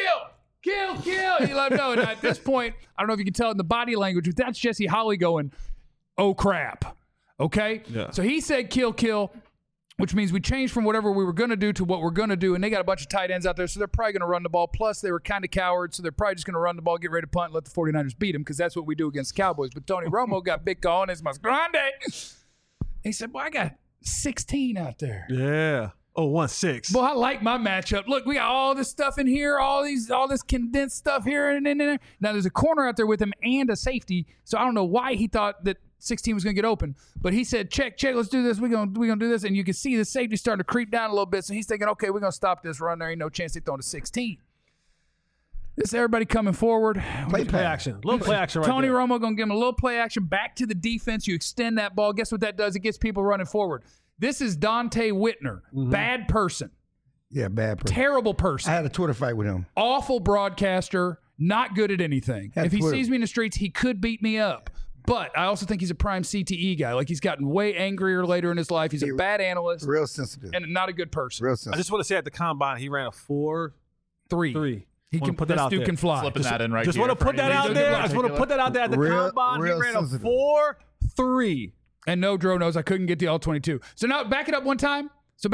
You let him know. Now, at this point, I don't know if you can tell in the body language, but that's Jesse Holley going, oh, crap. Okay? Yeah. So he said kill, which means we changed from whatever we were going to do to what we're going to do, and they got a bunch of tight ends out there, so they're probably going to run the ball. Plus, they were kind of cowards, so they're probably just going to run the ball, get ready to punt, and let the 49ers beat them, because that's what we do against the Cowboys. But Tony Romo got big on his mas grande. He said, well, I got 16 out there. Yeah. Oh, 1-6. Boy, I like my matchup. Look, we got all this stuff in here, all this condensed stuff here and in there. Now, there's a corner out there with him and a safety, so I don't know why he thought that 16 was going to get open. But he said, check, let's do this. We're gonna do this. And you can see the safety starting to creep down a little bit. So he's thinking, okay, we're going to stop this run. There ain't no chance they throw to 16. This is everybody coming forward. Play action. Little play action right Tony there. Romo going to give him a little play action back to the defense. You extend that ball. Guess what that does? It gets people running forward. This is Dante Whitner. Bad person. Yeah, bad person. Terrible person. I had a Twitter fight with him. Awful broadcaster. Not good at anything. Had If he Twitter. sees me in the streets, he could beat me up. But I also think he's a prime CTE guy. Like, he's gotten way angrier later in his life. He's a bad analyst Real sensitive. and not a good person. Real I sensitive. just want to say at the combine, he ran a 4.3. He Wanna can put that this out dude there. can fly. Slipping that in right Just here. want to for put that anybody out there. who's I just want to put that out there at the Real- combine. He real ran a sensitive. 4.3. And no Dro knows I couldn't get the all 22. So now back it up one time.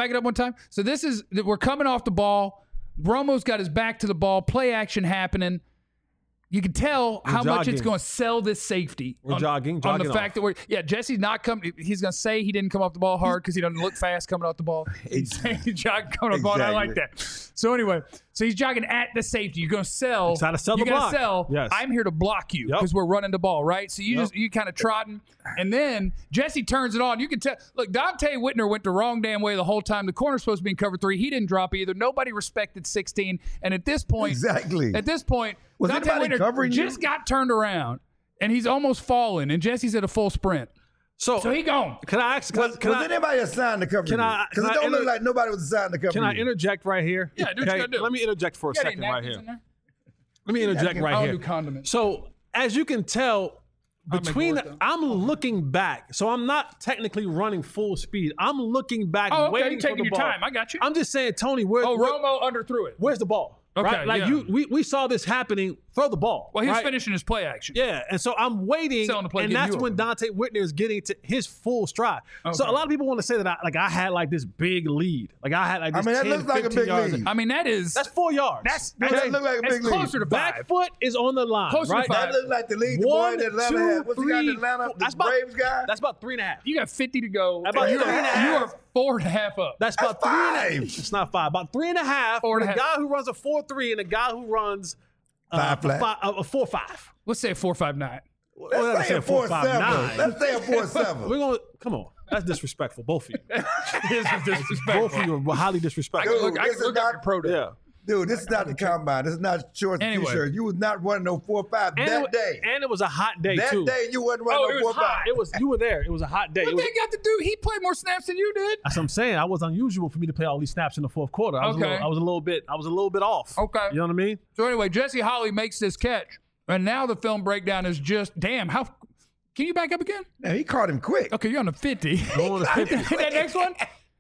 So this is, we're coming off the ball. Romo's got his back to the ball. Play action happening. You can tell how much it's jogging. going to sell this safety. We're on jogging the off. fact that Jesse's not coming. He's going to say he didn't come off the ball hard because he doesn't look fast coming off the ball. He's saying he's jogging coming off the ball, and I like that. So anyway, so he's jogging at the safety. You're going to sell. He's trying to sell You're the going block. to sell. Yes. I'm here to block you Yep. because we're running the ball, right? So you kind of trotting, and then Jesse turns it on. You can tell. Look, Dante Whitner went the wrong damn way the whole time. The corner's supposed to be in cover 3. He didn't drop either. Nobody respected 16. And at this point, Exactly. At this point, Was Dante anybody Whitner covering you? just got turned around, and he's almost falling. And Jesse's at a full sprint. So he gone. can I ask? Was anybody assigned to cover Can you? I- Because can it I don't look inter- like nobody was assigned to cover Can you. I interject right here? Yeah, do what you gotta do. Let me interject for a You got any second right napkins here. in there? Let me interject right I'll here. do condiments. So as you can tell, make between more of them. I'm looking back, so I'm not technically running full speed. I'm looking back, Oh, okay. waiting You're for taking the your ball. time. I got you. I'm just saying, Tony, Romo underthrew it. where's the ball? Okay, right? Like yeah. we saw this happening. Throw the ball. Well, he was right? finishing his play action. Yeah, and so I'm waiting, Selling the play, and getting that's you when open. Dante Whitner is getting to his full stride. So Okay. a lot of people want to say that I had like this big lead, like I had like this. I mean, that 10, looks like a 15 big yards. lead. I mean, that is That's 4 yards. that's That look like a that's big lead. closer to 5. Back foot is on the line, Closer to right? 5. That looked like the lead the boy One, in Atlanta two, had. What's he got in three, Atlanta? four. The That's about- Braves guy? That's about 3.5. You got 50 to go. About you, three and a half. you are 4.5 up. That's about That's 3.5. five. It's not 5. About 3.5. Four and For a the half. guy who runs a 4.3 and a guy who runs Five flat. a 4.5. Let's say a 4.59. Let's say a 4.7. 4.59. Let's say a 4.7. We're going to come on. That's disrespectful, both of you. This is disrespectful. Both of you are highly disrespectful. Dude, I this can is look up not- your pro day. Yeah. Dude, this is not the combine. This is not shorts and Anyway. t-shirts. You was not running no 4.5 that day. And it was a hot day That too. day you wasn't running Oh, it no was 4.5. hot. It was you were there. It was a hot day. What It was, they got to do? He played more snaps than you did. that's what I'm saying. I was unusual for me to play all these snaps in the fourth quarter. I was Okay. a little bit off. Okay. You know what I mean? So anyway, Jesse Holley makes this catch, and now the film breakdown is just damn. How can you back up again? Now, he caught him quick. Okay, you're on the 50. Going to 50. that next one,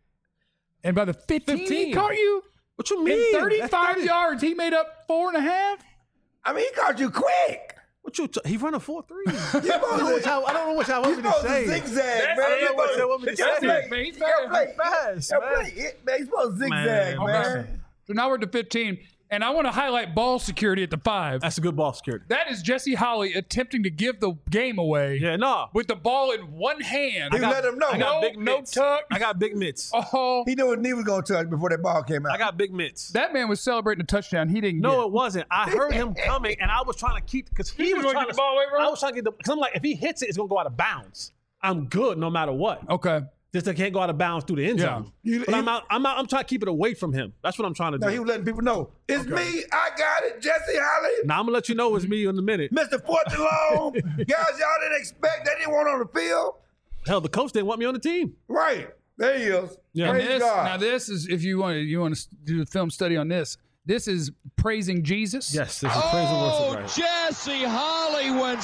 and by the 15, he 15. caught you. What you In mean? 35 That's 30. yards, he made up 4.5. I mean, he caught you quick. What you? He run a 4.3. You supposed to- I don't know what y'all you want me to supposed say. to zigzag, That's- man. I don't know what y'all want me to You gotta say. play- Man, he's you gotta play- fast, you man. gotta play it, man. He's supposed to zigzag, Man, man. So now we're to 15, and I want to highlight ball security at the 5. That's a good ball security. That is Jesse Holley attempting to give the game away Yeah, no. with the ball in one hand. You let him know. I got No- big no mitts. tuck. I got big mitts. Oh, He knew his knee was going to touch before that ball came out. I got big mitts. that man was celebrating a touchdown. He didn't No, get. it wasn't. I heard him coming, and I was trying to keep because he You was gonna trying get to. the ball away, bro? I was trying to get the because I'm like, if he hits it, it's gonna go out of bounds. I'm good no matter what. Okay. Just I can't go out of bounds through the end Yeah. zone. You- But I'm out. I'm trying to keep it away from him. That's what I'm trying to do. No, he was letting people know. It's me. I got it. Jesse Holley. Now I'm gonna let you know it's me in a minute. Mr. Fourth and Long. Guys y'all didn't expect. They didn't want on the field. Hell, the coach didn't want me on the team. Right. There he is. Yeah. And Praise this, God. now this is if you want to do a film study on this. This is praising Jesus. Yes, this is praise and Oh, worship right. Jesse Holley went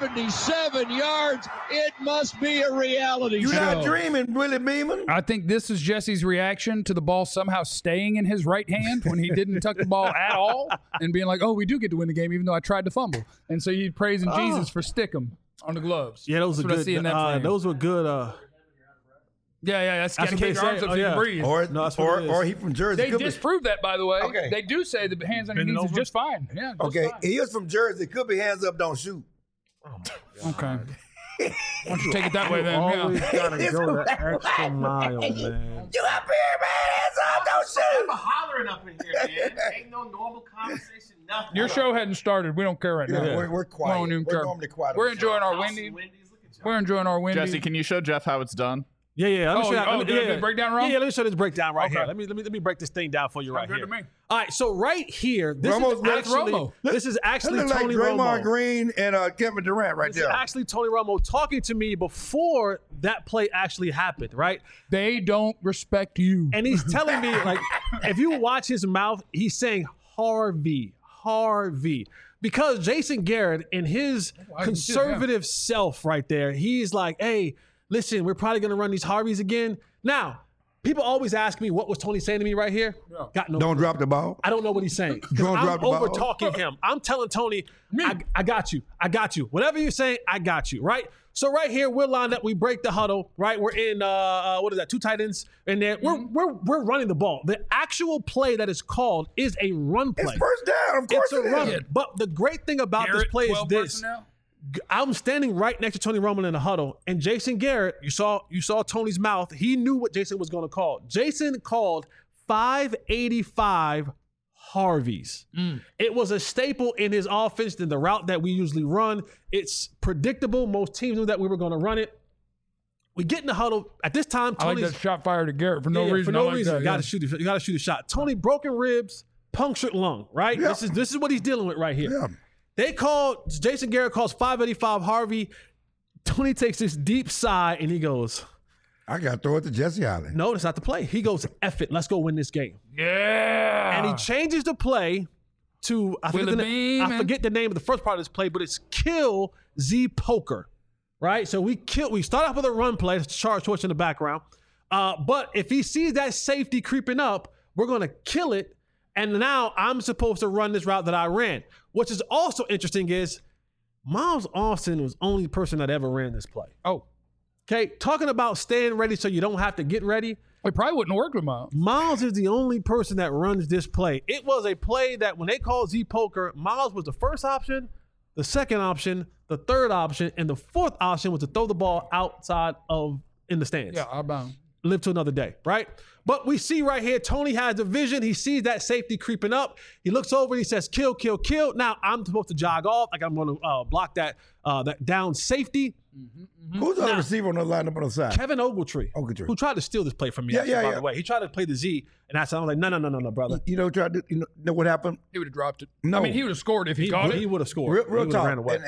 77 yards. It must be a reality You're show. not dreaming, Willie Beeman. I think this is Jesse's reaction to the ball somehow staying in his right hand when he didn't tuck the ball at all and being like, oh, we do get to win the game even though I tried to fumble. And so you praising Jesus for stick 'em. on the gloves. Yeah, those That's are what I good. see in that frame. Those were good. Yeah. That's got to what keep they your arms say. up Oh, so you yeah. can breathe. Or he from Jersey. They Could be- disproved that, by the way. Okay. They do say the hands on your Bending knees is over? just fine. Yeah. Just Okay, fine. he was from Jersey. Could be hands up, don't shoot. Okay. Why don't you take it that way then? Always Yeah. gotta go that extra mile, man. You up here, man? Hands up, don't shoot. Hollering up in here, man. Ain't no normal conversation, nothing. Your show hadn't started. We don't care right now. We're quiet. We don't even We're care. normally quiet. We're on the show. enjoying our House Wendy's. and Wendy's, look at y'all. We're enjoying our Wendy's. Jesse, can you show Jeff how it's done? Yeah. Let me show you. did I break down wrong? Yeah, let me show this breakdown right Okay. here. Let me break this thing down for you right good here. to me. All right, so right here, this Romo's is like actually Romo. this is That actually look like Tony Draymond Romo. Green and Kevin Durant right This is there. actually Tony Romo talking to me before that play actually happened, right? They don't respect you. And he's telling me, like, if you watch his mouth, he's saying Harvey. Because Jason Garrett and his conservative self right there, he's like, hey, listen, we're probably going to run these Harveys again. Now, people always ask me, what was Tony saying to me right here? Got no Don't drop the ball. I don't know what he's saying. 'Cause Don't I'm drop the ball. over talking him. I'm telling Tony, I got you. Whatever you're saying, I got you, right? So right here, we're lined up. We break the huddle, right? We're in, what is that, 2 tight ends? And then we're running the ball. The actual play that is called is a run play. It's first down. Of course It's a it run. is. But the great thing about Garrett, this play is 12 this. personnel? I'm standing right next to Tony Romo in the huddle, and Jason Garrett, you saw Tony's mouth. He knew what Jason was going to call. Jason called 585 Harveys. It was a staple in his offense than the route that we usually run. It's predictable. Most teams knew that we were going to run it. We get in the huddle. At this time, I like Tony's that shot fired to Garrett for no reason. For I no like reason. that, You got to shoot. You got to shoot a shot. Tony broken ribs, punctured lung. Right. Yeah. This is what he's dealing with right here. Yeah. They called, Jason Garrett calls 585 Harvey. Tony takes this deep sigh and he goes, I got to throw it to Jesse Allen. no, that's not the play. He goes, F it, let's go win this game. Yeah. And he changes the play to, I forget the name of the first part of this play, but it's kill Z Poker, right? So we start off with a run play, it's Charles Schwartz in the background. But if he sees that safety creeping up, we're going to kill it. And now I'm supposed to run this route that I ran. Which is also interesting is Miles Austin was the only person that ever ran this play. Oh. Okay, talking about staying ready so you don't have to get ready. It probably wouldn't work with Miles. Miles is the only person that runs this play. It was a play that when they called Z Poker, Miles was the first option, the second option, the third option, and the fourth option was to throw the ball outside in the stands. Yeah, outbound. Live to another day, right? But we see right here, Tony has a vision. He sees that safety creeping up. He looks over and he says, kill, kill, kill. Now I'm supposed to jog off. Like I'm going to block that down safety. Who's the other receiver on the lineup on the side? Kevin Ogletree, who tried to steal this play from me, by the way. He tried to play the Z, and I was like, no, brother. You know what happened? He would have dropped it. No. I mean, he would have scored if he caught it. He would have scored. Real He talk. ran away.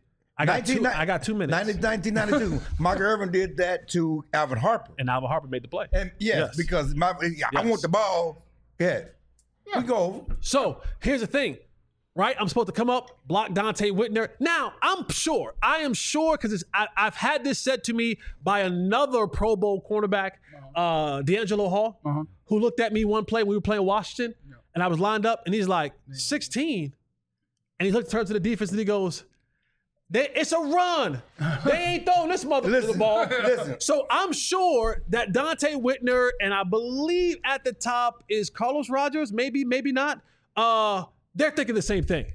I got 2 minutes. 1992. Michael Irvin did that to Alvin Harper. And Alvin Harper made the play. And yes. Because I want the ball. Yeah. We go over. So here's the thing, right? I'm supposed to come up, block Dante Whitner. Now, I am sure, because I've had this said to me by another Pro Bowl cornerback, D'Angelo Hall, who looked at me one play when we were playing Washington, and I was lined up, and he's like, 16. And he turns to the defense, and he goes, it's a run. They ain't throwing this mother to the ball. Listen. So I'm sure that Dante Whitner, and I believe at the top is Carlos Rogers, maybe not. They're thinking the same thing.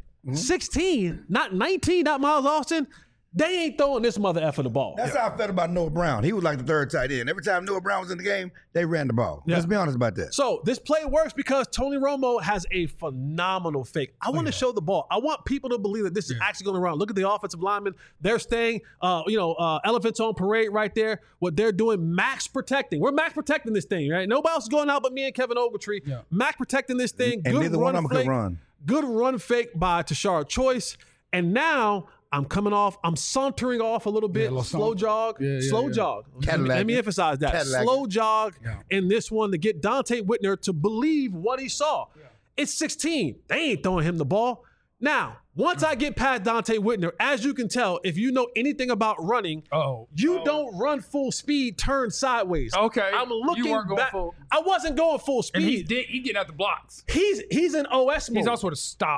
16, not 19, not Miles Austin. They ain't throwing this mother effer the ball. That's how I felt about Noah Brown. He was like the third tight end. Every time Noah Brown was in the game, they ran the ball. Let's be honest about that. So this play works because Tony Romo has a phenomenal fake. I want to show the ball. I want people to believe that this is actually going to run. Look at the offensive linemen. They're staying, elephants on parade right there. What they're doing, max protecting. We're max protecting this thing, right? Nobody else is going out but me and Kevin Ogletree. Yeah. Max protecting this thing. And good neither run one of them could run. Good run fake by Tashard Choice. And now I'm coming off. I'm sauntering off a little bit. Slow jog. Jog. Let me emphasize that. Slow jog in this one to get Dante Whitner to believe what he saw. Yeah. It's 16. They ain't throwing him the ball. Now, once I get past Dante Whitner, as you can tell, if you know anything about running, you don't run full speed, turn sideways. Okay. I'm looking you weren't going back. full. I wasn't going full speed. And he's getting out the blocks. He's in OS mode. He's also at a stop.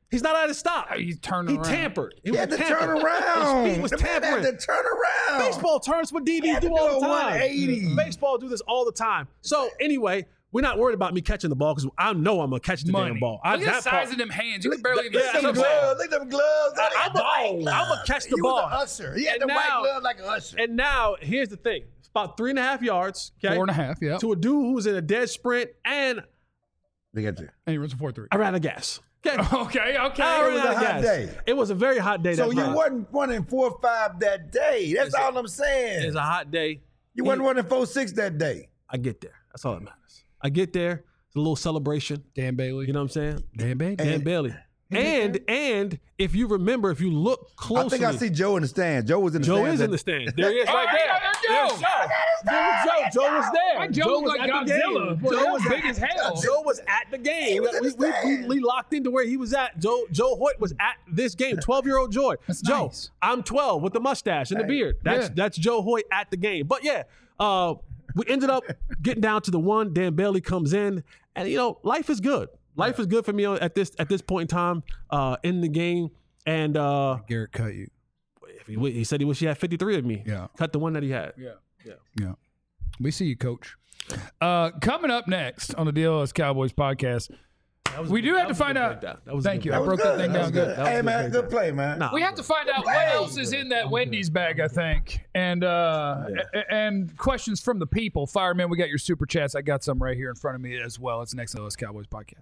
He's not at his stop. He turned He around. tampered. He had to turn around. His feet was The man tampering. had to turn around. Baseball turns what DBs had do to all do the a time. 180. Baseball do this all the time. So anyway, we're not worried about me catching the ball because I know I'm gonna catch the damn ball. Look at the size of them hands. You can barely even Yeah, see Look them. at them gloves. I'm gonna catch the He ball. was an usher. He had And the white now- glove like an usher. And now here's the thing: it's about 3.5 yards. Okay, 4.5, yeah. to a dude who's in a dead sprint, and They got you. And he runs a 4.3. I ran out of gas. Okay, Okay. I It was ran a out of hot gas. day. It was a very hot day. So that you Friday. wasn't running 4.5 that day. That's all I'm saying. It's a hot day. You wasn't running 4.6 that day. I get there. That's all that matters. I get there. It's a little celebration. Dan Bailey. You know what I'm saying? Dan Bailey. Dan Bailey. And if you remember, if you look closely, I think I see Joe in the stands. Joe was in the Joe stands. is in the stands. There he is, right Oh, there. yeah, there's Joe. There's Joe. Joe was there. Why Joe look like at the Godzilla? game. Boy, Joe that was was big as hell. Joe was at the game. was in the stands. We locked into where he was at. Joe Hoyt was at this game. 12-year-old Joy. That's Joe, nice. I'm 12 with the mustache and the beard. That's Joe Hoyt at the game. But yeah, we ended up getting down to the one. Dan Bailey comes in, and life is good. Life is good for me at this point in time in the game. And Garrett cut you. he said he wish he had 53 of me. Yeah. Cut the one that he had. Yeah. We see you, Coach. Coming up next on the DLS Cowboys podcast, we do have to find out. Thank you. I broke that thing down good. Hey, man, good play, man. Nah. We have to find out what else is in that Wendy's bag, I think, and questions from the people. Fireman, we got your super chats. I got some right here in front of me as well. It's the next DLS Cowboys podcast.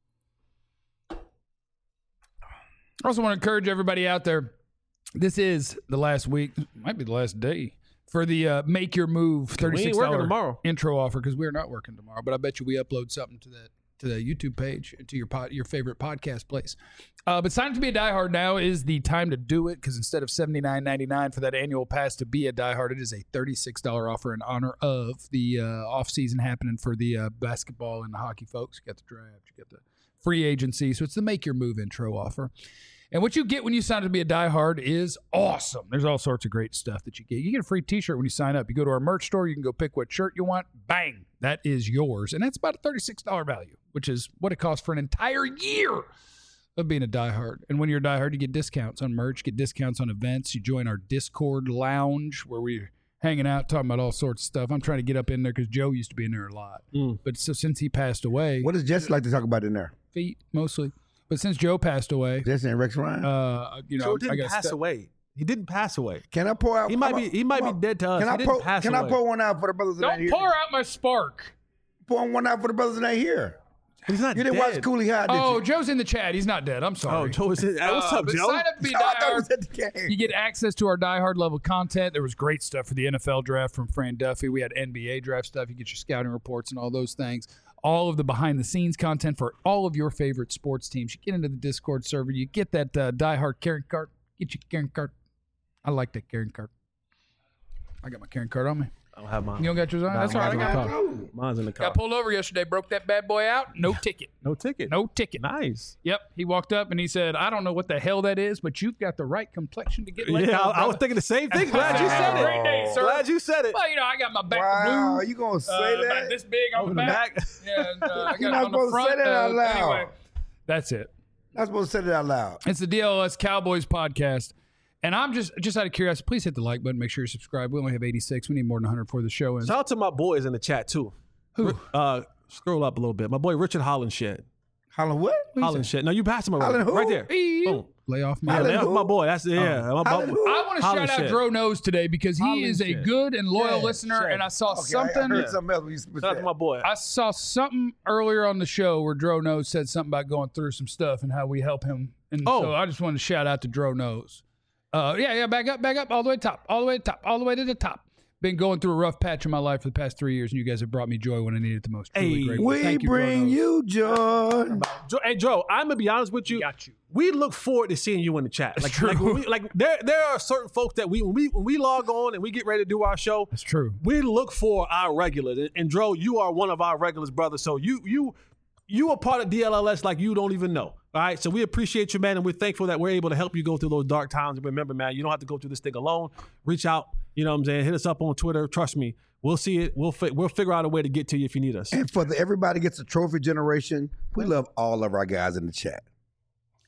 I also want to encourage everybody out there. This is the last week, might be the last day for the Make Your Move $36 tomorrow. intro offer because we're not working tomorrow. But I bet you we upload something to the YouTube page and to your favorite podcast place. But sign up to be a diehard now is the time to do it because instead of $79.99 for that annual pass to be a diehard, it is a $36 offer in honor of the off season happening for the basketball and the hockey folks. You got the draft, you got the free agency, so it's the Make Your Move intro offer. And what you get when you sign up to be a diehard is awesome. There's all sorts of great stuff that you get. You get a free t-shirt when you sign up. You go to our merch store, you can go pick what shirt you want. Bang, that is yours. And that's about a $36 value, which is what it costs for an entire year of being a diehard. And when you're a diehard, you get discounts on merch, get discounts on events. You join our Discord lounge where we're hanging out, talking about all sorts of stuff. I'm trying to get up in there because Joe used to be in there a lot. But so since he passed away, What does Jesse like to talk about in there? feet mostly. But since Joe passed away, Jesse and Rex Ryan? Joe I didn't got pass away. He didn't pass away. Can I pour out? He might be dead to us. He didn't pass Can I away. pour one out for the brothers that ain't Don't here? pour out my spark. Pour one out for the brothers that ain't here. But he's not You didn't dead. watch Cooley High, did Oh, you? Joe's in the chat. He's not dead. I'm Oh, sorry. Joe is in. What's up, but Joe? sign up to be I thought it was diehard. at the game. You get access to our diehard level content. There was great stuff for the NFL draft from Fran Duffy. We had NBA draft stuff. You get your scouting reports and all those things. All of the behind-the-scenes content for all of your favorite sports teams. You get into the Discord server. You get that diehard Karen card. Get your Karen card. I like that Karen card. I got my Karen card on me. I don't have mine. You don't got yours on? That's all right. I got it. Mine's in the car. Got pulled over yesterday. Broke that bad boy out. No ticket. No ticket. No ticket. Nice. Yep. He walked up and he said, I don't know what the hell that is, but you've got the right complexion to get let Yeah, go, I was brother." thinking the same thing. Glad you said Have a great day, it. sir. Glad you said it. Well, I got my back Wow, blue. you gonna say About that? this big on the back. Yeah, and, I got You're it not on the supposed to front. say that out loud. Anyway, that's it. Not supposed to say that out loud. It's the DLS Cowboys podcast. And I'm just out of curiosity, please hit the like button. Make sure you subscribe. We only have 86. We need more than 100 for the show. Shout out to my boys in the chat too. Who? Scroll up a little bit. My boy Richard Hollenshed. Holland what? Hollenshed. No, you passed him already. Holland who? Right there. Boom. Lay off my Yeah, Holland that's who? my boy. That's Holland who? I want to shout out Hollenshed. Dro Nose today because he is a Hollenshed. good and loyal Yeah, listener. sure. And I saw Okay, something. I heard something else when you Shout out to my boy. I saw something earlier on the show where Dro Nose said something about going through some stuff and how we help him. And so I just wanted to shout out to Dro Nose. Back up, all the way to the top. Been going through a rough patch in my life for the past 3 years, and you guys have brought me joy when I needed it the most. Truly Hey, grateful. We Thank you, Dro bring Nose. you joy. Hey Joe, I'm gonna be honest with you. Got you. We look forward to seeing you in the chat. Like, true. There are certain folks that when we log on and we get ready to do our show, That's true. we look for our regulars. And Dro, you are one of our regulars, brother. So you are part of DLLS like you don't even know. All right. So we appreciate you, man, and we're thankful that we're able to help you go through those dark times. And remember, man, you don't have to go through this thing alone. Reach out. You know what I'm saying? Hit us up on Twitter. Trust me. We'll see it. We'll figure out a way to get to you if you need us. And for the everybody gets a trophy generation, we love all of our guys in the chat.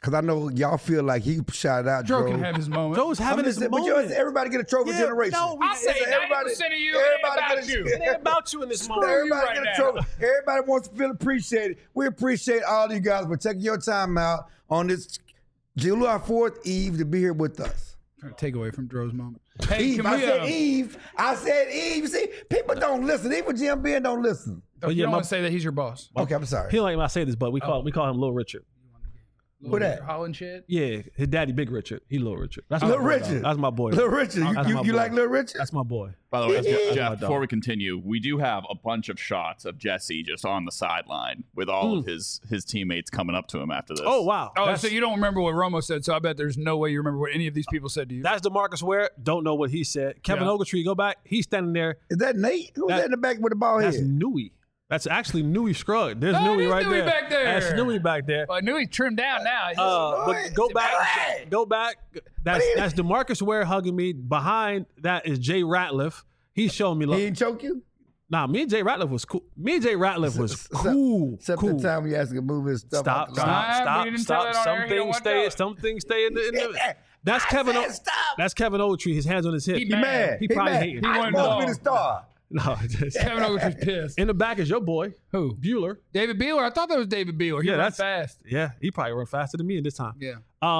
because I know y'all feel like he shouted out Joe Joe. can have his moment. Joe's having his But moment. everybody get a trophy Yeah, generation. no, I say 90% of you, it ain't about you. It ain't about you in this moment. Everybody right get a now. trophy. Everybody wants to feel appreciated. We appreciate all of you guys for taking your time out on this July 4th Eve to be here with us. Trying to take away from Joe's moment. Hey, Eve, can I we, said Eve. I said Eve. See, people don't listen. Even Jim Ben don't listen. you yeah, don't my- want to say that he's your boss. Okay, I'm sorry. He don't like when I say this, but we call him Little Richard. Who that? Holland shit? Yeah, his daddy, Big Richard. He Little Richard. That's Little my boy, Richard. dog. That's my boy. Little Richard. That's my You boy. like Little Richard? That's my boy. By the way, Jeff, dog. before we continue, we do have a bunch of shots of Jesse just on the sideline with all of his teammates coming up to him after this. Oh wow. Oh, That's- so you don't remember what Romo said, so I bet there's no way you remember what any of these people said to you. That's DeMarcus Ware. Don't know what he said. Kevin Yeah. Ogletree, go back. He's standing there. Is that Nate? Who's that in the back with the ball That's head? Newey. That's actually Newey Scruggs. There's Oh, Newey there's right Newey there. back there. That's Newey back there. I knew he trimmed down now. But go back. Go back. That's DeMarcus Ware hugging me. Behind that is Jay Ratliff. He's showing me He love. didn't choke you? Nah, me and Jay Ratliff was cool. Me and Jay Ratliff was cool. Except cool. the time we asked him to move his stuff out Stop, the line. stop, we didn't stop, tell stop. that on air. He don't want to. Some things stay in the That's I Kevin. said stop. That's Kevin Ogletree. His hands on his hip. He He mad. He probably mad. hating. He I wanted supposed to be ball. the star. No, just, Kevin Ogletree's pissed. in the back is your boy Who? Bueller. David Beeler? I thought that was David Beeler. He Yeah, runs that's- fast. Yeah, he probably run faster than me in this time. Yeah.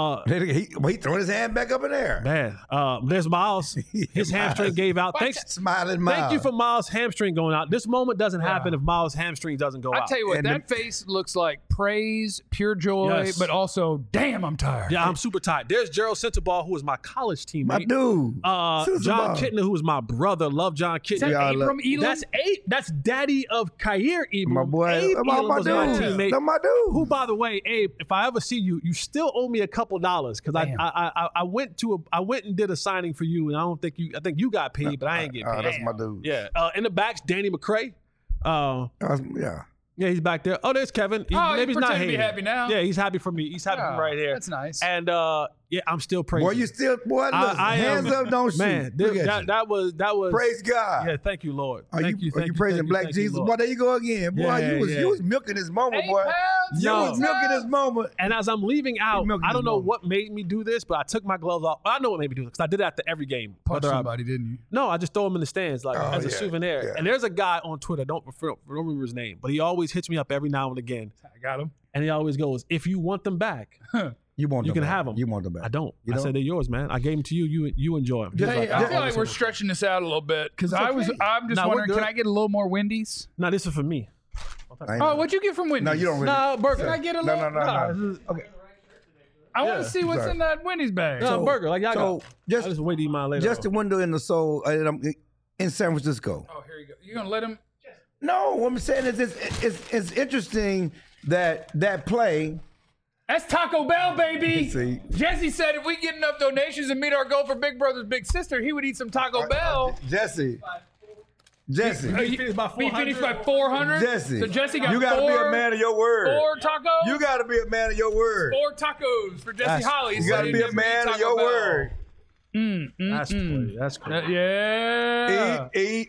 He throwing his hand back up in there. Man, there's Miles. His hamstring gave out. Thanks. Smiling Miles. Thank you for Miles' hamstring going out. This moment doesn't happen if Miles' hamstring doesn't go I out. tell you what, And that face looks like praise, pure joy, Yes. but also, damn, I'm tired. Yeah, I'm super tired. There's Gerald Centerball, who was my college teammate. My dude. Susan John Ball. Kittner, who was my brother. Love John Is that Kittner. Yeah, Abram Elam? That's That's daddy of Kair Elam. My boy. Abe My Elam was my dude. teammate. That's my dude. Who, by the way, Abe, if I ever see you, you still owe me a couple dollars because Damn. I went and did a signing for you, and I think you got paid, but I ain't getting paid. That's my dude. Yeah. In the back's Danny McCray. Yeah. Yeah, he's back there. Oh, there's Kevin. Oh, Maybe he's he's not pretending to be hating. happy now. Yeah, he's happy for me. He's happy for me right here. That's nice. And yeah, I'm still praising. Boy, you still, boy, listen, I am- hands up, don't shoot. Man, Look at you. that was Praise God. Yeah, thank you, Lord. Are Thank you thank praising Black thank you, Jesus? Lord. Boy, there you go again. Boy, Yeah, you yeah. was milking this moment, 8 boy. pounds, You No. was milking this moment. And as I'm leaving out, milking I don't this know moment. what made me do this, but I took my gloves off. I know what made me do this because I did it after every game. Punch Whether I- somebody, didn't you? No, I just throw them in the stands like as a yeah, souvenir. yeah. And there's a guy on Twitter, don't remember his name, but he always hits me up every now and again. I got him. And he always goes, if you want them back, You want You them can back. have them. You want them back. I don't. You I don't? said they're yours, man. I gave them to you. You enjoy them. Hey, I feel like we're stretching this out a little bit because I'm just Nah, we're wondering, good. can I get a little more Wendy's? No, this is for me. I ain't- Oh, what'd you get from Wendy's? No, you don't really. No, burger. Can I get a No, little? no. Okay. I want Yeah. to see what's Sorry. in that Wendy's bag. No, burger. Like y'all So got. just I just wait to eat mine later. just the window in the soul. And I'm in San Francisco. Oh, here you go. You gonna let him? No, what I'm saying is it's interesting that play. That's Taco Bell, baby. See. Jesse said if we get enough donations and meet our goal for Big Brother's Big Sister, he would eat some Taco Bell. Jesse. He finished by Be 400. finished by 400. Jesse. So Jesse got you gotta four, be a man of your word. 4 tacos. You gotta be a man of your word. 4 tacos for Jesse Holly. You gotta be a man of your word. That's crazy. That's crazy. Yeah. Eat.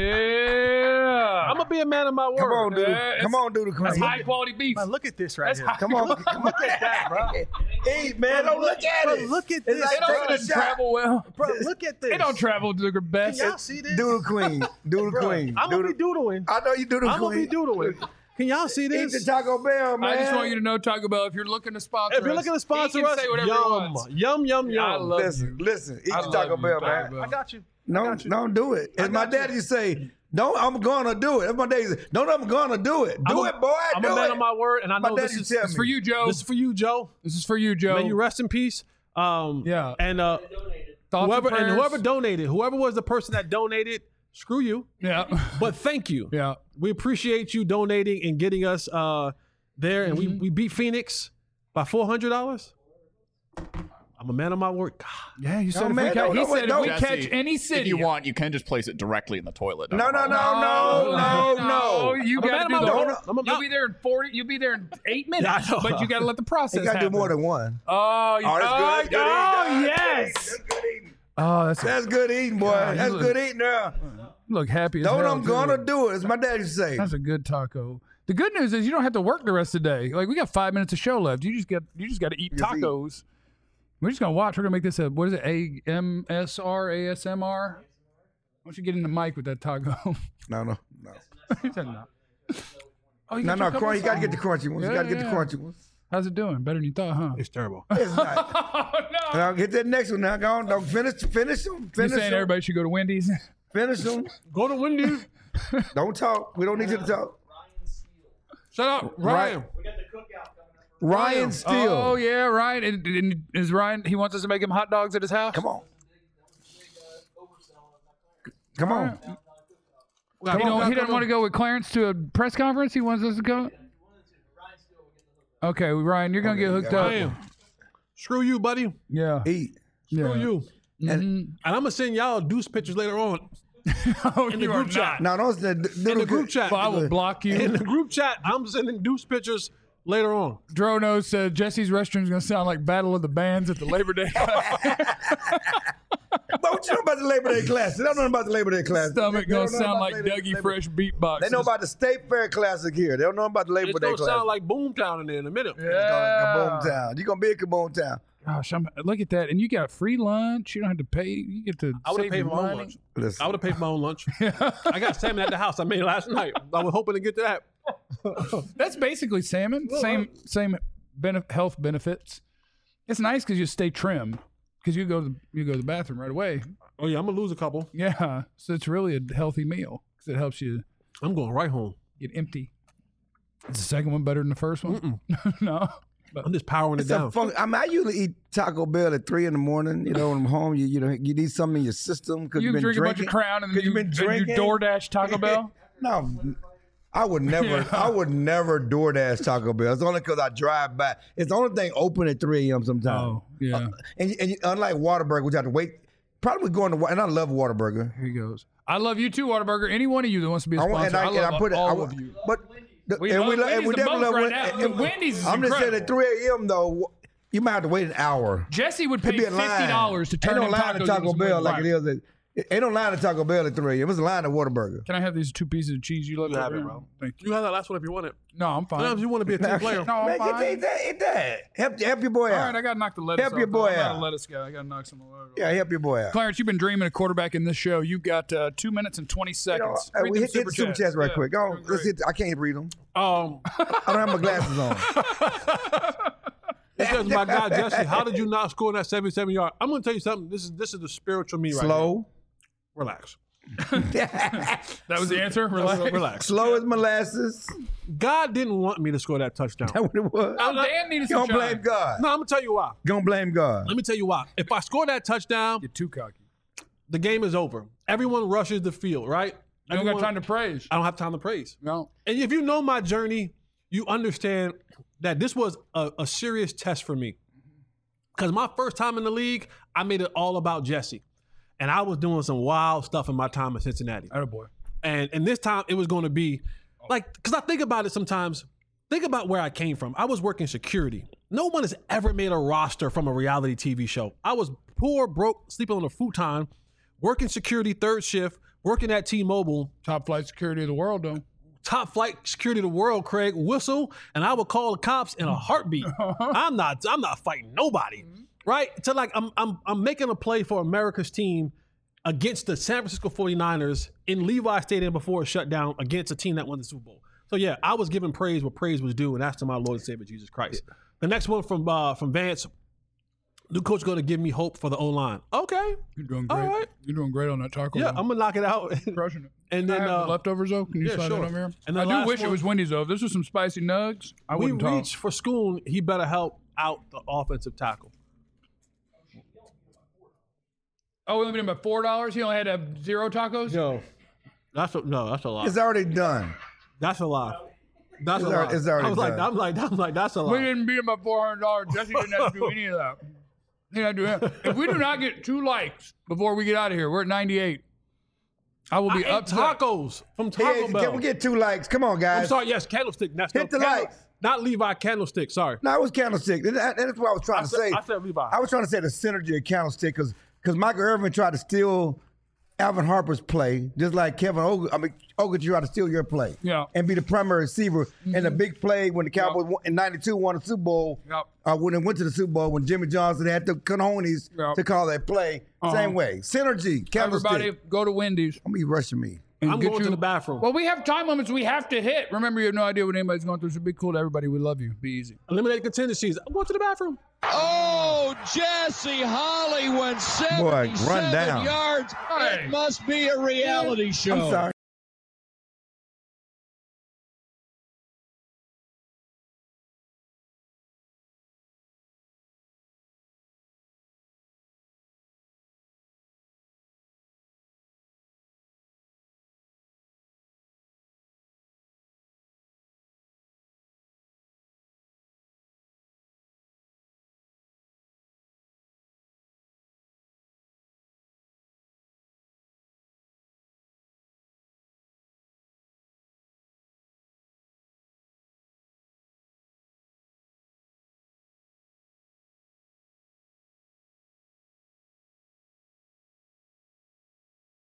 Yeah. I'm gonna be a man of my word. Come on, dude. Yeah, Come on, dude. That's high quality beef. Man, look at this right That's here. high Come on. quality. Look at that, bro. Eat, man. Don't look at Bro, it. look at It's this. like It taking don't a shot. travel well. Bro, look at this. It don't travel to the best. Can y'all see this? Doodle queen. Doodle queen. I'm gonna be doodling. I know you doodle I'm gonna queen. be doodling. Can y'all see Eat the this? Taco Bell, man. I just want you to know, Taco Bell, if you're looking to sponsor If you're looking to us, sponsor he can us, say whatever he yum, wants. yum. I love you. Listen. Eat I the love Taco you, Bell, Taco man. Bell. I got you. No, don't do it. As my daddy used to say, don't. I'm gonna do it. That's my daddy used to say, don't. I'm gonna do it. Do it, boy. I'm do a man it. of my word, and I My know daddy this used is to tell It's for you, Joe. this is for you, Joe. This is for you, Joe. May you rest in peace. Yeah. And Thoughts and prayers. whoever donated, whoever was the person that donated, screw you. Yeah. But thank you. Yeah. We appreciate you donating and getting us there, and we beat Phoenix by $400. I'm a man of my word. God. Yeah, you said No, if man, we catch, don't- he don't- said if don't- we Jesse, catch any city. If you want, you can just place it directly in the toilet. No. No, you I'm a got man to of do my the word. whole. You'll be there in 40. You'll be there in 8 minutes. Yeah, I know. But you got to let the process You gotta do happen. more than one. Oh, you, Oh, that's good. That's good eating. yes. That's good eating. Oh, that's That's good eating, boy. That's good eating now. You look happy as Don't hell, I'm gonna too. do it. As my daddy used to say. That's a good taco. The good news is you don't have to work the rest of the day. Like we got 5 minutes of show left. You just got to eat Just eat. tacos. We're just gonna watch. We're gonna make this a what is it? ASMR? Why don't you get in the mic with that taco? No. He said no. Oh, you No, got your couple you gotta get the songs? crunchy ones. You gotta get the Yeah. crunchy ones. How's it doing? Better than you thought, huh? It's terrible. It's not. Oh no! Now get that next one now. Go on. Don't finish them. You Finish saying them. everybody should go to Wendy's? Finish them. Go to Wendy's. Don't talk. We don't need you to talk. Shut up, Ryan. Ryan Steele. Oh yeah, Ryan. And is Ryan? He wants us to make him hot dogs at his house. Come on. Come on. He doesn't want to go with Clarence to a press conference. He wants us to go. Okay, Ryan, you're gonna get hooked up. Ryan. Screw you, buddy. Yeah. Eat. Screw you. Mm-hmm. And I'm gonna send y'all deuce pictures later on Oh, in the you group are chat. Now those In the group chat. Well, I will block In you. the group chat, I'm sending deuce pictures later on. Drono said Jesse's restroom's gonna sound like Battle of the Bands at the Labor Day. But what you know about the Labor Day Classic? They don't know about the Labor Day Classic. Stomach They gonna don't know sound about like Labor- Dougie Labor- Fresh beatbox. They know about the State Fair Classic here. They don't know about the Labor It's Day gonna Classic. sound like Boomtown in there in a minute. Kaboom Town. You're gonna be in Kaboom Town. Gosh, look at that, and you got free lunch. You don't have to pay. You get to I would save have paid your for my own money. lunch. Listen. I would have paid for my own lunch. I got salmon at the house I made last night. I was hoping to get to that. That's basically salmon. Same health benefits. It's nice because you stay trim because you go to the bathroom right away. Oh yeah, I'm gonna lose a couple. Yeah, so it's really a healthy meal because it helps you I'm going right home. get empty. Is the second one better than the first one? No. I'm just powering it It's down. a fun, I mean, I usually eat Taco Bell at 3 a.m. You know, when I'm home, you need something in your system because You you've been drink a bunch drinking. of Crown and 'Cause then you've been you drinking. DoorDash Taco Bell. No, I would never. I would never DoorDash Taco Bell. It's only because I drive by. It's the only thing open at 3 a.m. sometimes. Oh, yeah. And unlike Whataburger, which I have to wait. Probably going to. And I love Whataburger. Here he goes. I love you too, Whataburger. Any one of you that wants to be a I want- sponsor, I love all I- of you. But We and love we love, and Wendy's we the definitely most love right Wendy's. now. And Wendy's is I'm just saying incredible. at 3 a.m. though, you might have to wait an hour. Jesse would pay It'd be a line. $50 to turn Ain't no in line tacos at into Taco some Bell Wendy's. like it is. Ain't no line at Taco Bell at 3 a.m. It's a line at Whataburger. Can I have these 2 pieces of cheese you love? You have over it, here? bro. Thank you. You have that last one if you want it. No, I'm fine. Sometimes you want to be a team player. No, I'm Man, fine. eat that. Help your boy All out. right, I got to knock the lettuce Help off. your boy I'm not out. a lettuce guy. I got to knock some over. Yeah, help your boy out. Clarence, you've been dreaming of quarterback in this show. You've got 2 minutes and 20 You know, seconds. we hit the super chats right quick. Go on. doing Let's great. hit. I can't read them. Um, I don't have my glasses on. it says, my God, Jesse, how did you not score that 77-yard? I'm going to tell you something. This is the spiritual me right here. Slow. Relax. That was the answer? Relax. Relax. Slow as molasses. God didn't want me to score that touchdown. That's what it was. Oh, Dan needed You some don't blame shine. God. No, I'm going to tell you why. Don't blame God. Let me tell you why. If I score that touchdown, You're too cocky. the game is over. Everyone rushes the field, right? You don't got time to praise. I don't have time to praise. No. And if you know my journey, you understand that this was a serious test for me. Because my first time in the league, I made it all about Jesse. And I was doing some wild stuff in my time in Cincinnati. Attaboy. And this time it was going to be like, because I think about it sometimes, think about where I came from. I was working security. No one has ever made a roster from a reality TV show. I was poor, broke, sleeping on a futon, working security third shift, working at T-Mobile, Top flight security of the world, though. top flight security of the world, Craig, whistle, and I would call the cops in a heartbeat. I'm not fighting nobody. Right? So like I'm making a play for America's team against the San Francisco 49ers in Levi Stadium before it shut down against a team that won the Super Bowl. So yeah, I was giving praise where praise was due, and that's to my Lord and Savior Jesus Christ. The next one from Vance, new coach going to give me hope for the O-line. Okay. You're doing great. All right. You're doing great on that taco. Yeah, Bell. I'm gonna knock it out. crushing it. And Can then I have the leftovers though? Can you yeah, slide sure. that over here? And I then do last wish it one- was Wendy's though. If this was some spicy nugs, I we wouldn't talk. reached for Schoon. He better help out the offensive tackle. Oh, we only paid him about $4. He only had to have 0 tacos. Yo, that's a lie. It's already done. That's a lie. That's a It's lie. already- it's already I was like, done. I'm like, that's a We lie. didn't beat him by $400. Jesse didn't have to do any of that. He didn't have to do that. If we do not get 2 likes before we get out of here, we're at 98. I will I be ate upset. tacos from Taco Hey, Bell. can we get 2 likes? Come on, guys. I'm sorry. Yes, candlestick. That's Hit the likes. Not Levi Candlestick. Sorry. No, it was Candlestick. That's what I was trying to say. I said Levi. I was trying to say the synergy of Candlestick because Michael Irvin tried to steal Alvin Harper's play, just like Kevin Ogletree tried to steal your play. Yeah. And be the primary receiver. And the big play when the Cowboys in 92 won the Super Bowl, when they went to the Super Bowl, when Jimmy Johnson had the cojones to call that play. Same way. Synergy. Everybody go to Wendy's. I'm rushing me. I'm going to the bathroom. Well, we have time limits we have to hit. Remember, you have no idea what anybody's going through. So be cool to everybody. We love you. Be easy. Eliminate contingencies. I'm going to the bathroom. Oh, Jesse Holly went 77 run down. yards. It must be a reality show. I'm sorry.